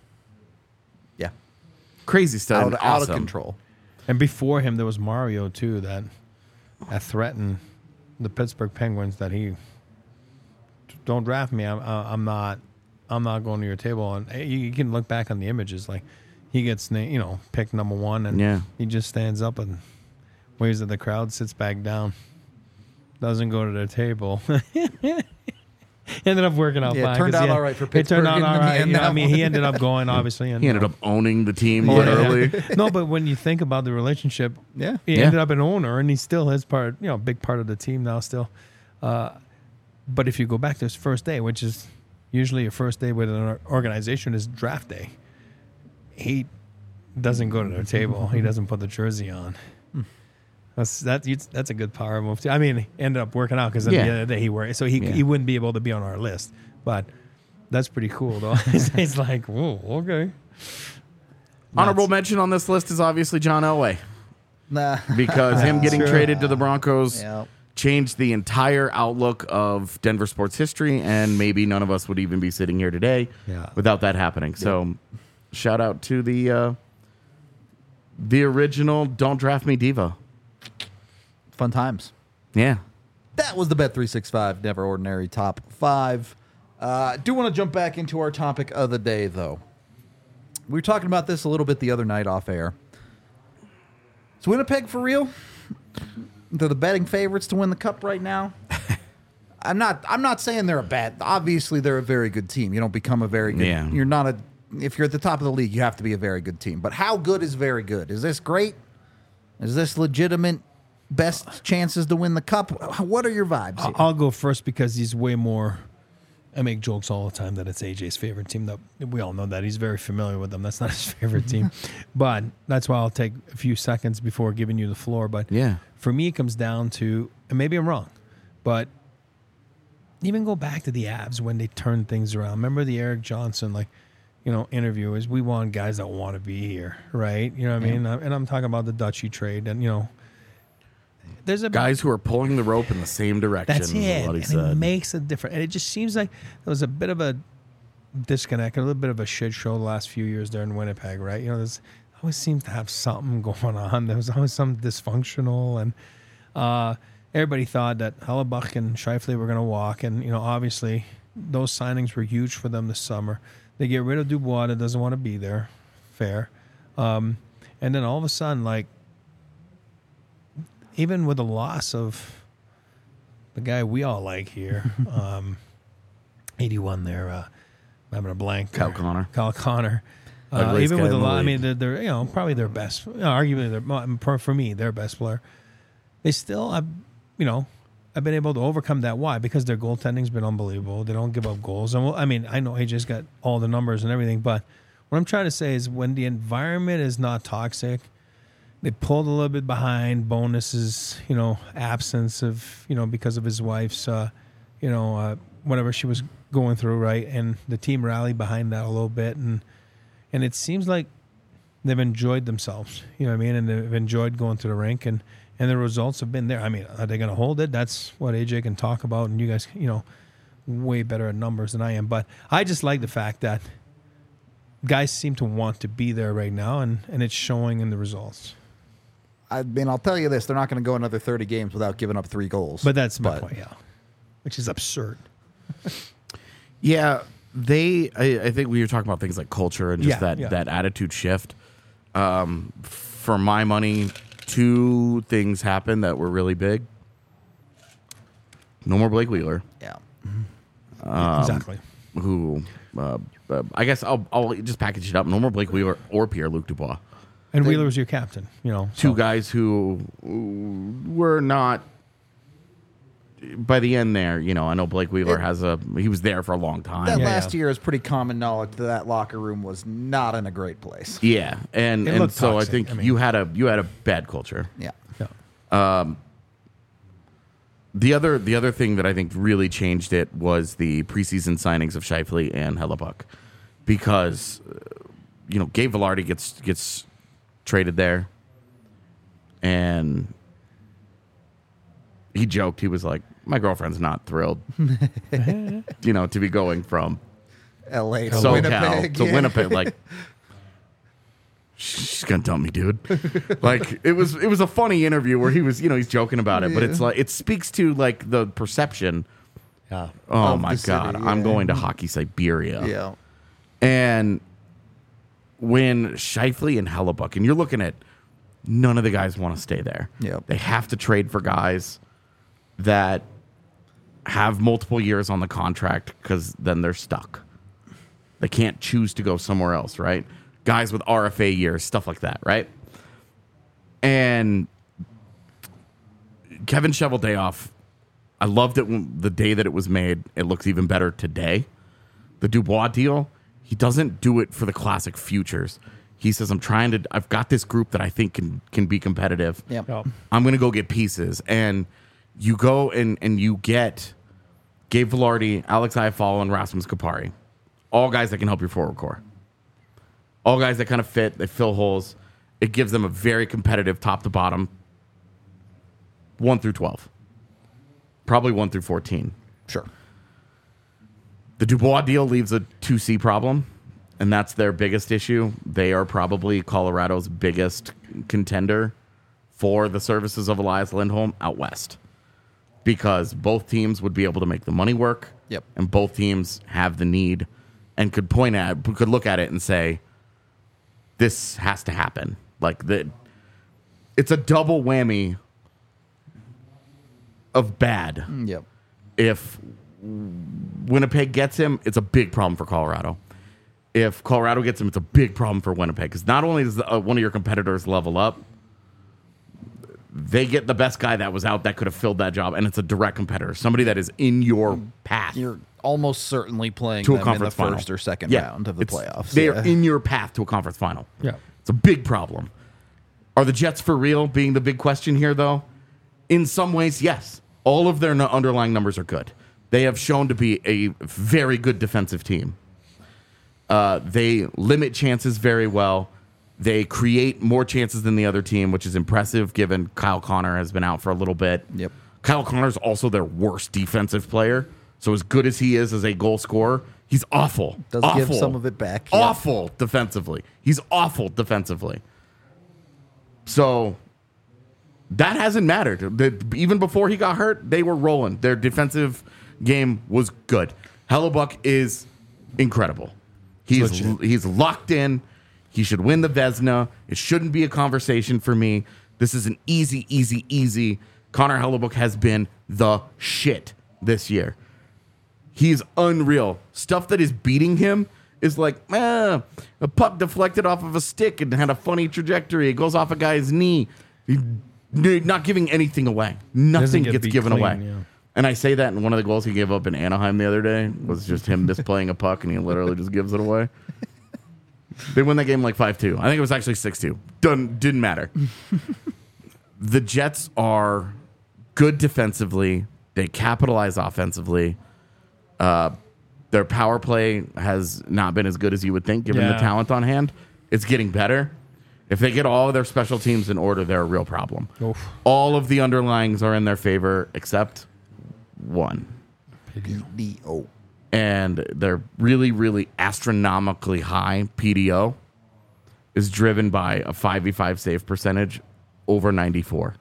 Yeah. Crazy stuff. Out of Awesome. control. And before him, there was Mario too that threatened the Pittsburgh Penguins that he don't draft me. I'm not going to your table. And you can look back on the images, like he gets picked number 1, and he just stands up and waves at the crowd, sits back down, doesn't go to their table. Ended up working out fine. It turned out all right for Pittsburgh. It turned out all right. I mean, he ended up going, obviously. And, he ended up owning the team literally. No, but when you think about the relationship, he ended up an owner, and he still is part, big part of the team now still. But if you go back to his first day, which is usually your first day with an organization, is draft day. He doesn't go to their table. He doesn't put the jersey on. That's a good power move too. I mean, he ended up working out because at the end of the day he worked, so he wouldn't be able to be on our list. But that's pretty cool, though. He's like, whoa, okay. Honorable mention on this list is obviously John Elway. Nah. Because him getting traded to the Broncos Yep. changed the entire outlook of Denver sports history, and maybe none of us would even be sitting here today without that happening. So shout out to the original Don't Draft Me diva. Fun times. Yeah. That was the Bet365 Never Ordinary Top 5. Do want to jump back into our topic of the day, though. We were talking about this a little bit the other night off air. Is Winnipeg for real? They're the betting favorites to win the cup right now. I'm not saying they're a bad. Obviously, they're a very good team. You don't become a very good. Yeah. You're not a. If you're at the top of the league, you have to be a very good team. But how good is very good? Is this great? Is this legitimate? Best chances to win the cup? What are your vibes here? I'll go first because he's way more. I make jokes all the time that it's AJ's favorite team. That we all know that he's very familiar with them. That's not his favorite team, but that's why I'll take a few seconds before giving you the floor. But for me, it comes down to, and maybe I'm wrong, but even go back to the Avs when they turned things around. Remember the Eric Johnson interview is we want guys that want to be here, right? You know what I mean? And I'm talking about the Dutchy trade, and there's guys who are pulling the rope in the same direction. That's it. What he and said. It makes a difference. And it just seems like there was a bit of a disconnect, a little bit of a shit show the last few years there in Winnipeg, right? There's always seems to have something going on. There was always some dysfunctional, and everybody thought that Hellebuck and Scheifele were going to walk, and obviously those signings were huge for them this summer. They get rid of Dubois that doesn't want to be there. Fair. And then all of a sudden, like, even with the loss of the guy we all like here, 81 there, I'm having a blank. Kyle Connor. Even with a lot, I mean, they're probably their best, arguably for me, their best player. They still, I've been able to overcome that. Why? Because their goaltending's been unbelievable. They don't give up goals. And I know AJ's got all the numbers and everything, but what I'm trying to say is when the environment is not toxic, they pulled a little bit behind. Bonuses, absence of, because of his wife's, whatever she was going through, right? And the team rallied behind that a little bit, and it seems like they've enjoyed themselves, you know what I mean? And they've enjoyed going to the rink, and the results have been there. I mean, are they going to hold it? That's what AJ can talk about, and you guys, way better at numbers than I am. But I just like the fact that guys seem to want to be there right now, and it's showing in the results. I mean, I'll tell you this: they're not going to go another 30 games without giving up 3 goals. But that's my point, which is absurd. Yeah, I think we were talking about things like culture and just that attitude shift. For my money, 2 things happened that were really big. No more Blake Wheeler. Yeah. Exactly. Who, I guess I'll just package it up. No more Blake Wheeler or Pierre-Luc Dubois. And Wheeler was your captain, 2 guys who were not, by the end there, I know Blake Wheeler he was there for a long time. That last year is pretty common knowledge that locker room was not in a great place. Yeah, and so toxic. I think you had a bad culture. Yeah. The other thing that I think really changed it was the preseason signings of Scheifele and Hellebuck, because Gabe Vilardi gets traded there, and he joked, he was like, my girlfriend's not thrilled to be going from LA to SoCal Winnipeg to Winnipeg. Like, she's gonna dump me, dude. Like, it was a funny interview where he was, he's joking about it, but it's like, it speaks to like the perception Yeah. Oh Of my the God. city, I'm yeah. going to Hockey Siberia. Yeah. And when Scheifele and Hellebuck, and you're looking at none of the guys want to stay there. Yep. They have to trade for guys that have multiple years on the contract because then they're stuck. They can't choose to go somewhere else, right? Guys with RFA years, stuff like that, right? And Kevin Cheveldayoff, I loved it the day that it was made. It looks even better today. The Dubois deal, he doesn't do it for the classic futures. He says, I've got this group that I think can be competitive. Yep. Yeah. I'm going to go get pieces. And you go and you get Gabe Velarde, Alex Iafallo, and Rasmus Kupari. All guys that can help your forward core. All guys that kind of fit, they fill holes. It gives them a very competitive top to bottom 1 through 12. Probably 1 through 14. Sure. The Dubois deal leaves a 2C problem, and that's their biggest issue. They are probably Colorado's biggest contender for the services of Elias Lindholm out west, because both teams would be able to make the money work. Yep. And both teams have the need and could look at it and say, this has to happen. It's a double whammy of bad. Yep. If Winnipeg gets him, it's a big problem for Colorado. If Colorado gets him, it's a big problem for Winnipeg, because not only does one of your competitors level up, they get the best guy that was out that could have filled that job, and it's a direct competitor, somebody that is in your path You're almost certainly playing to a them in the conference final. first or second round of the playoffs. They are Yeah. in your path to a conference final. Yeah. It's a big problem. Are the Jets for real being the big question here, though? In some ways, yes. All of their underlying numbers are good. They have shown to be a very good defensive team. They limit chances very well. They create more chances than the other team, which is impressive given Kyle Connor has been out for a little bit. Yep. Kyle Connor's also their worst defensive player. So as good as he is as a goal scorer, he's awful. Does awful. give some of it back. Yep. Awful defensively. He's awful defensively. So that hasn't mattered. Even before he got hurt, they were rolling. Their defensive game was good. Hellebuck is incredible. He's locked in. He should win the Vezina. It shouldn't be a conversation for me. This is an easy. Connor Hellebuck has been the shit this year. He's unreal. Stuff that is beating him is like, a puck deflected off of a stick and had a funny trajectory. It goes off a guy's knee. Not giving anything away. Nothing get gets beat given clean, away. yeah. And I say that, and one of the goals he gave up in Anaheim the other day was just him misplaying a puck, and he literally just gives it away. They win that game like 5-2. I think it was actually 6-2. Didn't matter. The Jets are good defensively. They capitalize offensively. Their power play has not been as good as you would think, given the Yeah. talent on hand. It's getting better. If they get all of their special teams in order, they're a real problem. Oof. All of the underlyings are in their favor except one. PDO. And their really astronomically high PDO is driven by a 5v5 save percentage over 94.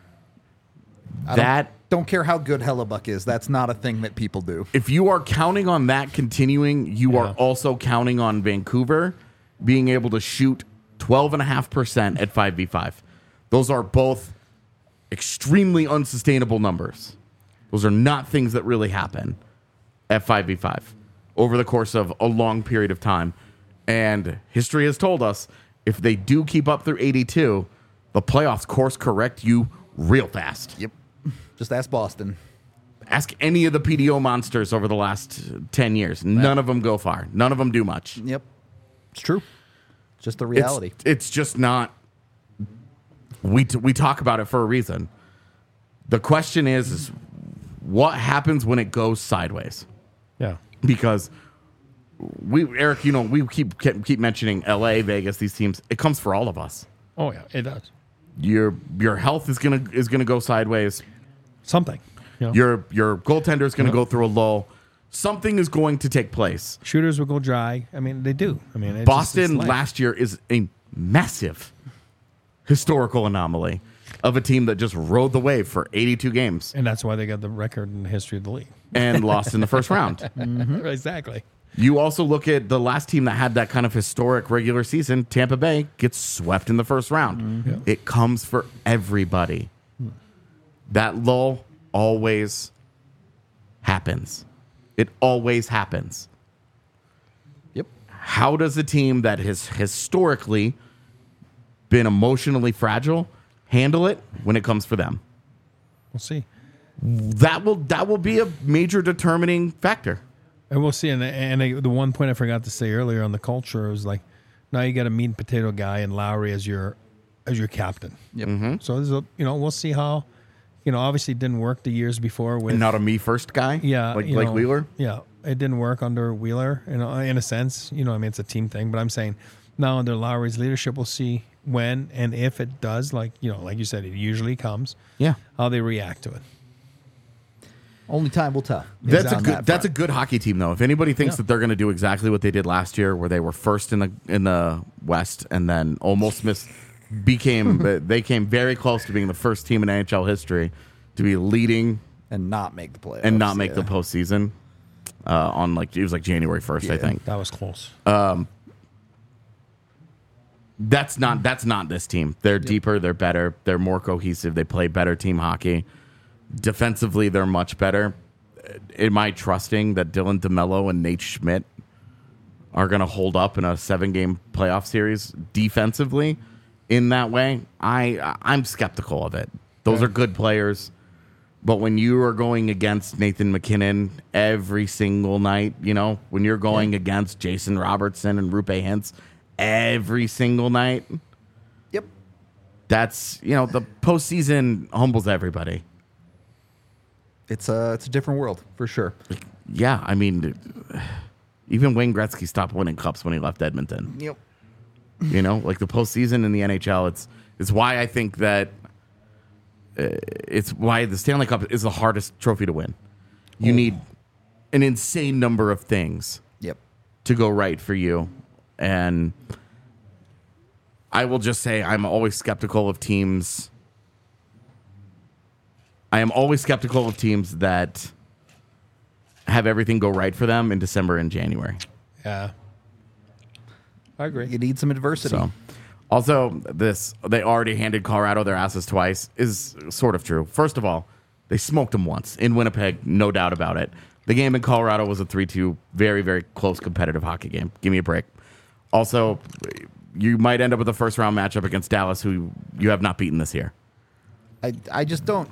Don't care how good Hellebuck is. That's not a thing that people do. If you are counting on that continuing, you are also counting on Vancouver being able to shoot 12.5% at 5v5. Those are both extremely unsustainable numbers. Those are not things that really happen at 5v5 over the course of a long period of time. And history has told us if they do keep up through 82, the playoffs course correct you real fast. Yep. Just ask Boston. Ask any of the PDO monsters over the last 10 years. None of them go far. None of them do much. Yep. It's true. It's just the reality. It's just not. We talk about it for a reason. The question is what happens when it goes sideways? Yeah. Because Eric, we keep mentioning LA, Vegas, these teams. It comes for all of us. Oh yeah, it does. Your health is gonna go sideways. Something. You know? Your goaltender is gonna go through a lull. Something is going to take place. Shooters will go dry. I mean, they do. I mean, Boston life. last year is a massive historical anomaly. of a team that just rode the wave for 82 games And that's why they got the record in the history of the league. and lost in the first round. Exactly. You also look at the last team that had that kind of historic regular season, Tampa Bay, gets swept in the first round. It comes for everybody. That lull always happens. It always happens. Yep. How does a team that has historically been emotionally fragile handle it when it comes for them? We'll see. That will be a major determining factor. And we'll see. And the one point I forgot to say earlier on the culture was like, now you got a meat and potato guy and Lowry as your captain. Yep. So there's we'll see how, obviously it didn't work the years before with And not a me first guy. yeah, like Wheeler. Yeah, it didn't work under Wheeler. In a sense, it's a team thing. But I'm saying now under Lowry's leadership, we'll see when and if it does. Like you said, it usually comes. Yeah. How they react to it. Only time will tell. That's on that That's a front. good hockey team, though. If anybody thinks that they're going to do exactly what they did last year, where they were first in the West and then almost they came very close to being the first team in NHL history to be leading and not make the playoffs and not make the postseason on it was January 1st, I think. That was close. That's not this team. They're deeper, they're better, they're more cohesive, they play better team hockey. Defensively, they're much better. Am I trusting that Dylan DeMello and Nate Schmidt are going to hold up in a 7-game playoff series defensively in that way? I'm skeptical of it. Those are good players. But when you are going against Nathan McKinnon every single night, when you're going against Jason Robertson and Rupe Hintz every single night, Yep. that's, the postseason humbles everybody. It's a different world for sure. Yeah, I mean, even Wayne Gretzky stopped winning cups when he left Edmonton. Yep. The postseason in the NHL, it's why I think that it's why the Stanley Cup is the hardest trophy to win. You need an insane number of things Yep. to go right for you. And I will just say I'm always skeptical of teams. I am always skeptical of teams that have everything go right for them in December and January. Yeah. I agree. You need some adversity. So, also, they already handed Colorado their asses twice is sort of true. First of all, they smoked them once in Winnipeg, no doubt about it. The game in Colorado was a 3-2, very, very close competitive hockey game. Give me a break. Also, you might end up with a first-round matchup against Dallas, who you have not beaten this year. I just don't.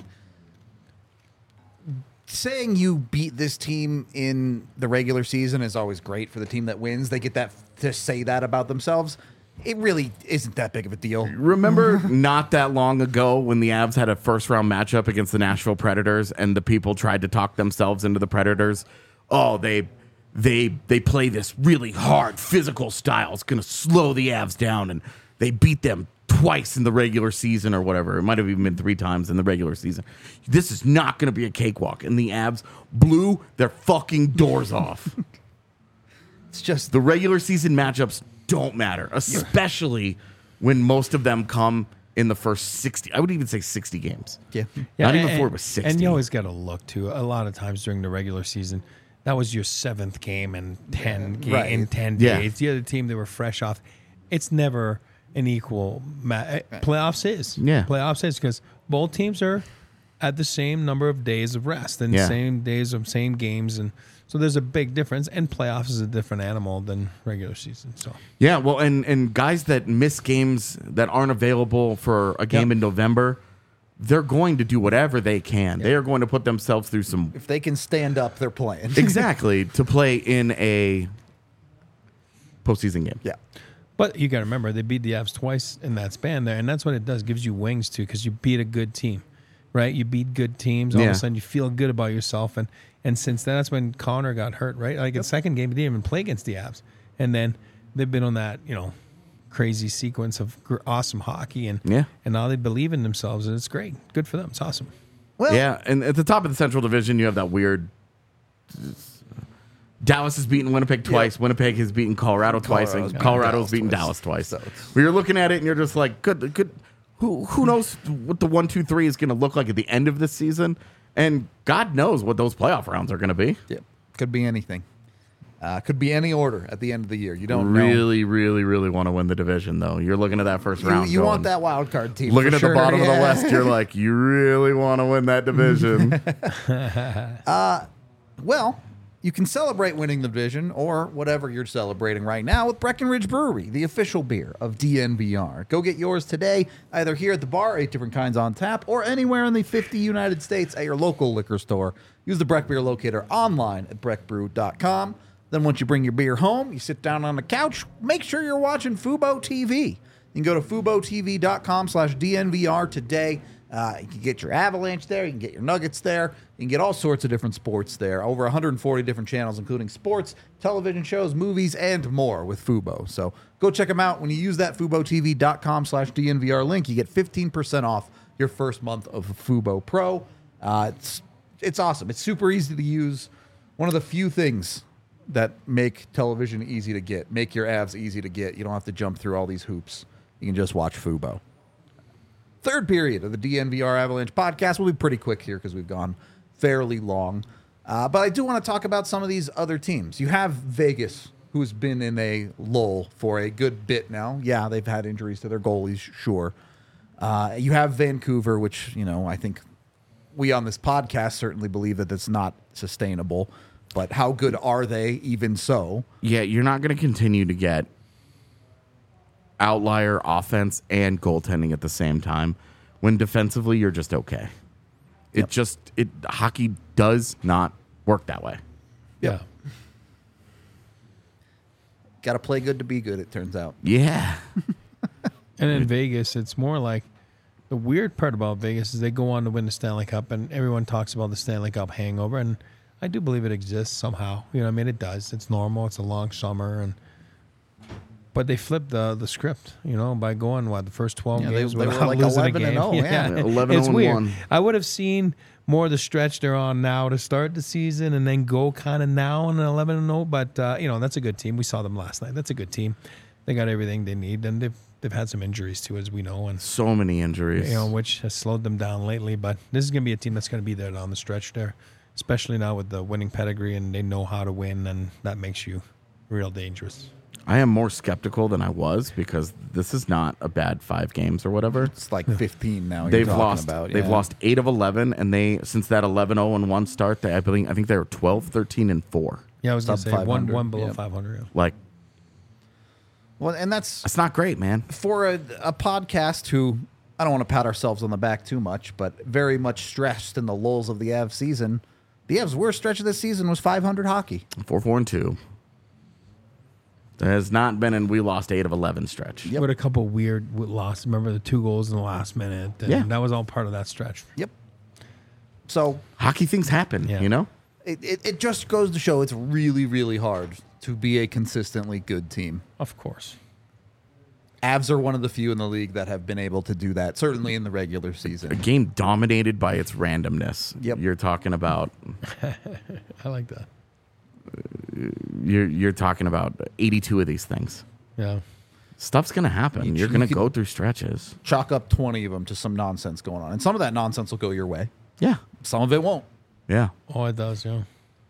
Saying you beat this team in the regular season is always great for the team that wins. They get that to say that about themselves. It really isn't that big of a deal. Remember not that long ago when the Avs had a first-round matchup against the Nashville Predators and the people tried to talk themselves into the Predators? Oh, they play this really hard physical style. It's going to slow the Avs down, and they beat them twice in the regular season or whatever. It might have even been 3 times in the regular season. This is not going to be a cakewalk. And the Avs blew their fucking doors off. It's just The regular season matchups don't matter, especially when most of them come in the first 60. I would even say 60 games. yeah. Not even before it was 60. And you always got to look too. A lot of times during the regular season, that was your 7th game in 10 Right. in 10 Yeah. days. The other team, they were fresh off. It's never an equal playoffs is. Yeah. Playoffs is because both teams are at the same number of days of rest and Yeah. same days of same games, and so there's a big difference. And playoffs is a different animal than regular season. So Yeah, well, and guys that miss games that aren't available for a game in November, they're going to do whatever they can. They are going to put themselves through some If they can stand up, they're playing. exactly to play in a postseason game. Yeah. But you got to remember, they beat the Avs twice in that span there, and that's what it does. Gives you wings too, because you beat a good team, right? You beat good teams. All of Yeah. a sudden, you feel good about yourself. And since then, that's when Connor got hurt, right? Like in the second game, he didn't even play against the Avs, and then they've been on that crazy sequence of awesome hockey, and now they believe in themselves, and it's great. Good for them. It's awesome. Well, Yeah, and at the top of the Central Division, you have that weird. Dallas has beaten Winnipeg twice. Yeah. Winnipeg has beaten Colorado twice, and Colorado's Colorado's beaten beaten Dallas Dallas twice. So it's- Where you're looking at it and you're just like, good. who knows what the 1, 2, 3 is going to look like at the end of this season, and God knows what those playoff rounds are going to be. Yeah, could be anything. Could be any order at the end of the year. You don't know. Really, really, really want to win the division, though. You're looking at that first round. You want going, that wild card team. looking for at sure. the bottom of the Yeah. West, you're like, you really want to win that division. Well, you can celebrate winning the division or whatever you're celebrating right now with Breckenridge Brewery, the official beer of DNVR. Go get yours today, either here at the bar, 8 different kinds on tap, or anywhere in the 50 United States at your local liquor store. Use the Breck Beer Locator online at breckbrew.com. Then once you bring your beer home, you sit down on the couch, make sure you're watching Fubo TV. You can go to FuboTV.com/DNVR today. You can get your Avalanche there. You can get your Nuggets there. You can get all sorts of different sports there. Over 140 different channels, including sports, television shows, movies, and more with Fubo. So go check them out. When you use that FuboTV.com/DNVR link, you get 15% off your first month of Fubo Pro. It's awesome. It's super easy to use. One of the few things that make television easy to get, make your Avs easy to get. You don't have to jump through all these hoops. You can just watch Fubo. Third period of the DNVR Avalanche podcast. We'll be pretty quick here because we've gone fairly long. But I do want to talk about some of these other teams. You have Vegas, who's been in a lull for a good bit now. Yeah, they've had injuries to their goalies, sure. You have Vancouver, which, I think we on this podcast certainly believe that that's not sustainable. But how good are they even so? Yeah, you're not going to continue to get outlier offense and goaltending at the same time when defensively you're just okay. Yep. Hockey does not work that way. Yeah. Got to play good to be good, it turns out. Yeah. And in Vegas, it's more like the weird part about Vegas is they go on to win the Stanley Cup, and everyone talks about the Stanley Cup hangover, and I do believe it exists somehow. It does. It's normal. It's a long summer, but they flipped the script, by going the first 12 games they were without like losing a 11 game. and 0, yeah. 11 it's and weird. 1. I would have seen more of the stretch they're on now to start the season, and then go kind of now on an 11 and 0. But that's a good team. We saw them last night. That's a good team. They got everything they need, and they've had some injuries too, as we know, and So many injuries. which has slowed them down lately. But this is going to be a team that's going to be there down the stretch there, especially now with the winning pedigree, and they know how to win, and that makes you real dangerous. I am more skeptical than I was because this is not a bad 5 games or whatever. It's like 15 now. They've you're talking lost. About, They've yeah. lost 8 of 11, and they since that 11-0-1 start, I think they were 12, 13, and 4. Yeah, I was going to Sub say one 500, below yep. 500. Like Well, and that's not great, man. for a podcast who, I don't want to pat ourselves on the back too much, but very much stressed in the lulls of the Avs season. The Avs' worst stretch of this season was 500 hockey. 4-4-2. There has not been, and we lost 8 of 11 stretch. Yep. With a couple weird losses. Remember the 2 goals in the last minute? And Yeah. that was all part of that stretch. Yep. So Hockey things happen, Yeah. it just goes to show it's really, really hard to be a consistently good team. Of course. Avs are one of the few in the league that have been able to do that, certainly in the regular A season. game dominated by its randomness. Yep. You're talking about I like that. you're talking about 82 of these things. Yeah. Stuff's gonna happen. You're gonna go through stretches. Chalk up 20 of them to some nonsense going on. And some of that nonsense will go your way. Yeah. Some of it won't. Yeah. Oh, it does, yeah.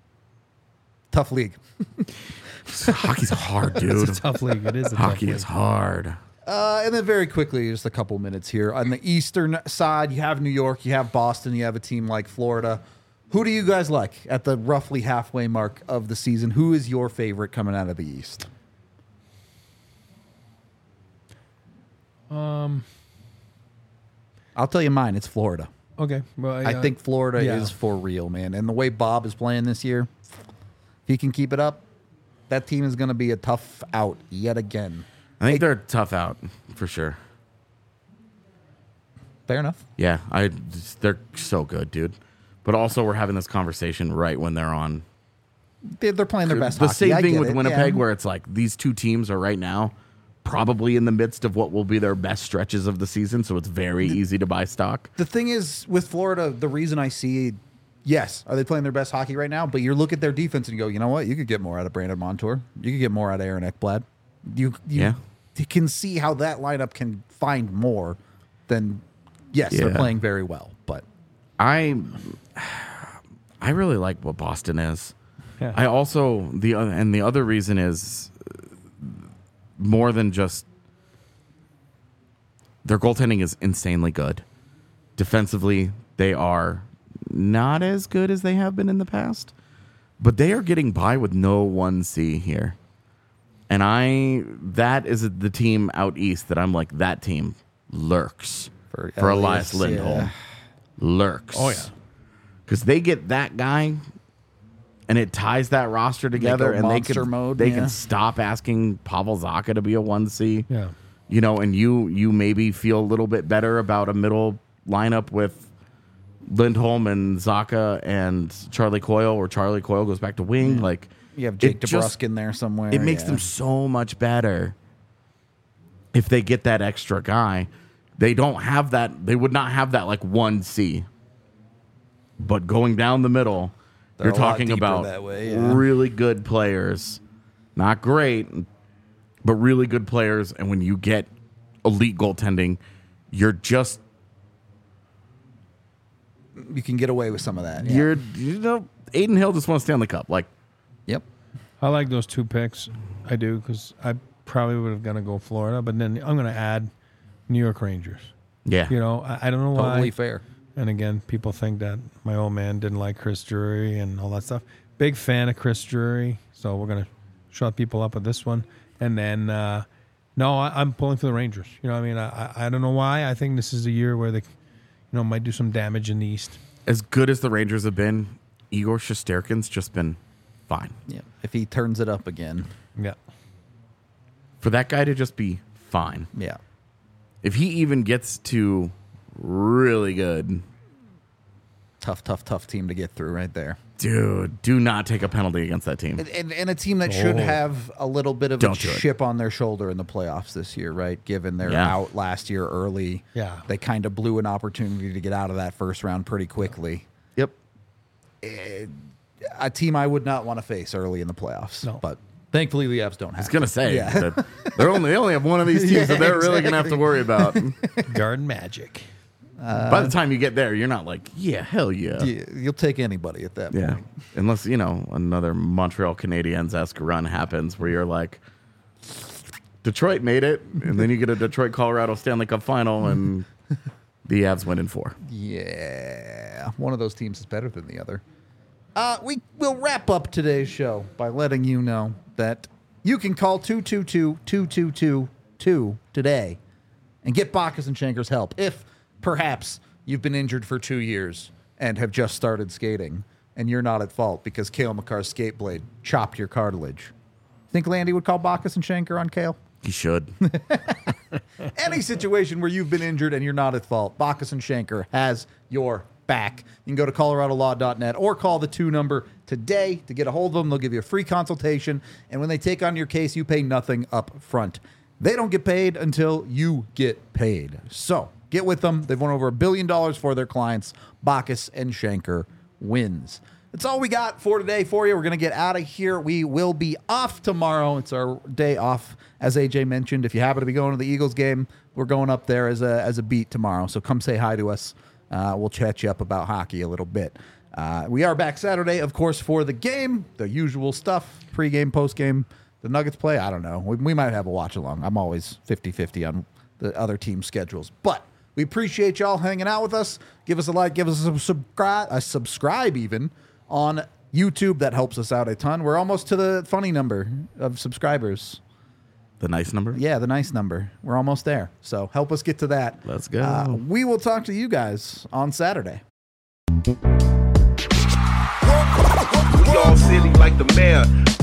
Tough league. Hockey's hard, dude. It's a tough league. It is a tough Hockey league. is hard. And then very quickly, just a couple minutes here. On the eastern side, you have New York, you have Boston, you have a team like Florida. Who do you guys like at the roughly halfway mark of the season? Who is your favorite coming out of the East? I'll tell you mine. It's Florida. Okay. Well, I think Florida yeah. is for real, man. And the way Bob is playing this year, if he can keep it up, that team is going to be a tough out yet again. I think they're tough out for sure. Fair enough. Yeah, they're so good, dude. But also, we're having this conversation right when they're on. They're playing their best The hockey. same I thing get with it, Winnipeg, yeah. where it's like these two teams are right now probably in the midst of what will be their best stretches of the season, so it's very easy to buy stock. The thing is, with Florida, the reason I see, yes, are they playing their best hockey right now? But you look at their defense and you go, you know what? You could get more out of Brandon Montour. You could get more out of Aaron Ekblad. You Yeah. can see how that lineup can find more. then yes, Yeah. they're playing very well. But I really like what Boston is. Yeah. I also the other reason is more than just their goaltending is insanely good. Defensively, they are not as good as they have been in the past, but they are getting by with no 1C here. And that is the team out east that I'm like, that team lurks for Elias Lindholm. yeah. Lurks. Oh, yeah. Because they get that guy and it ties that roster together, and monster mode, they yeah. can stop asking Pavel Zacha to be a 1C. Yeah. You know, and you maybe feel a little bit better about a middle lineup with Lindholm and Zacha and Charlie Coyle, or Charlie Coyle goes back to wing. Like, You have Jake it just- DeBrusk in there somewhere. it makes yeah. them so much better if they get that extra guy. They don't have that. They would not have that like 1C. But going down the middle, They're you're a lot talking deeper about that way, yeah. really good players. Not great, but really good players. And when you get elite goaltending, you're just You can get away with some of that. Yeah. Aiden Hill just won a Stanley Cup. Like, Yep. I like those two picks. I do, because I probably would have gonna go Florida, but then I'm gonna add New York Rangers. yeah. You know, I don't know why. Totally fair. And again, people think that my old man didn't like Chris Drury and all that stuff. Big fan of Chris Drury, so we're gonna shut people up with this one. And then, no, I'm pulling for the Rangers. You know, what I mean, I don't know why. I think this is a year where they, might do some damage in the East. As good as the Rangers have been, Igor Shesterkin's just been fine. Yeah. If he turns it up again. Yeah, For that guy to just be fine. Yeah. If he even gets to really good, Tough team to get through right there. dude, do not take a penalty against that team. And a team that should have a little bit of a Don't do it. chip on their shoulder in the playoffs this year, right? Given they're Yeah. out last year early. Yeah. They kind of blew an opportunity to get out of that first round pretty quickly. Yep. A team I would not want to face early in the playoffs. No. But thankfully the Avs don't have I was gonna say Yeah. that they only have one of these teams that they're really gonna have to worry about. Garden Magic. By the time you get there, you're not like, yeah, hell yeah. You'll take anybody at that Yeah. point. Unless, another Montreal Canadiens-esque run happens where you're like, Detroit made it, and then you get a Detroit-Colorado Stanley Cup final, and the Avs win in 4. Yeah. One of those teams is better than the other. We will wrap up today's show by letting you know that you can call 222-2222 today and get Bacchus and Shanker's help if perhaps you've been injured for 2 years and have just started skating and you're not at fault because Cale Makar's skate blade chopped your cartilage. Think Landy would call Bacchus and Shanker on Cale? He should. Any situation where you've been injured and you're not at fault, Bacchus and Shanker has your back. You can go to coloradolaw.net or call the 2 number today to get a hold of them. They'll give you a free consultation, and when they take on your case, you pay nothing up front. They don't get paid until you get paid. So get with them. They've won over $1 billion for their clients. Bacchus and Shanker wins. That's all we got for today for you. We're going to get out of here. We will be off tomorrow. It's our day off, as AJ mentioned. If you happen to be going to the Eagles game, we're going up there as a beat tomorrow. So come say hi to us. We'll chat you up about hockey a little bit. We are back Saturday, of course, for the game. The usual stuff, pregame, postgame. The Nuggets play, I don't know. We might have a watch-along. I'm always 50-50 on the other team's schedules. But we appreciate y'all hanging out with us. Give us a like, give us a subscribe even on YouTube. That helps us out a ton. We're almost to the funny number of subscribers. The nice number? Yeah, the nice number. We're almost there. So help us get to that. Let's go. We will talk to you guys on Saturday. We all silly like the mayor.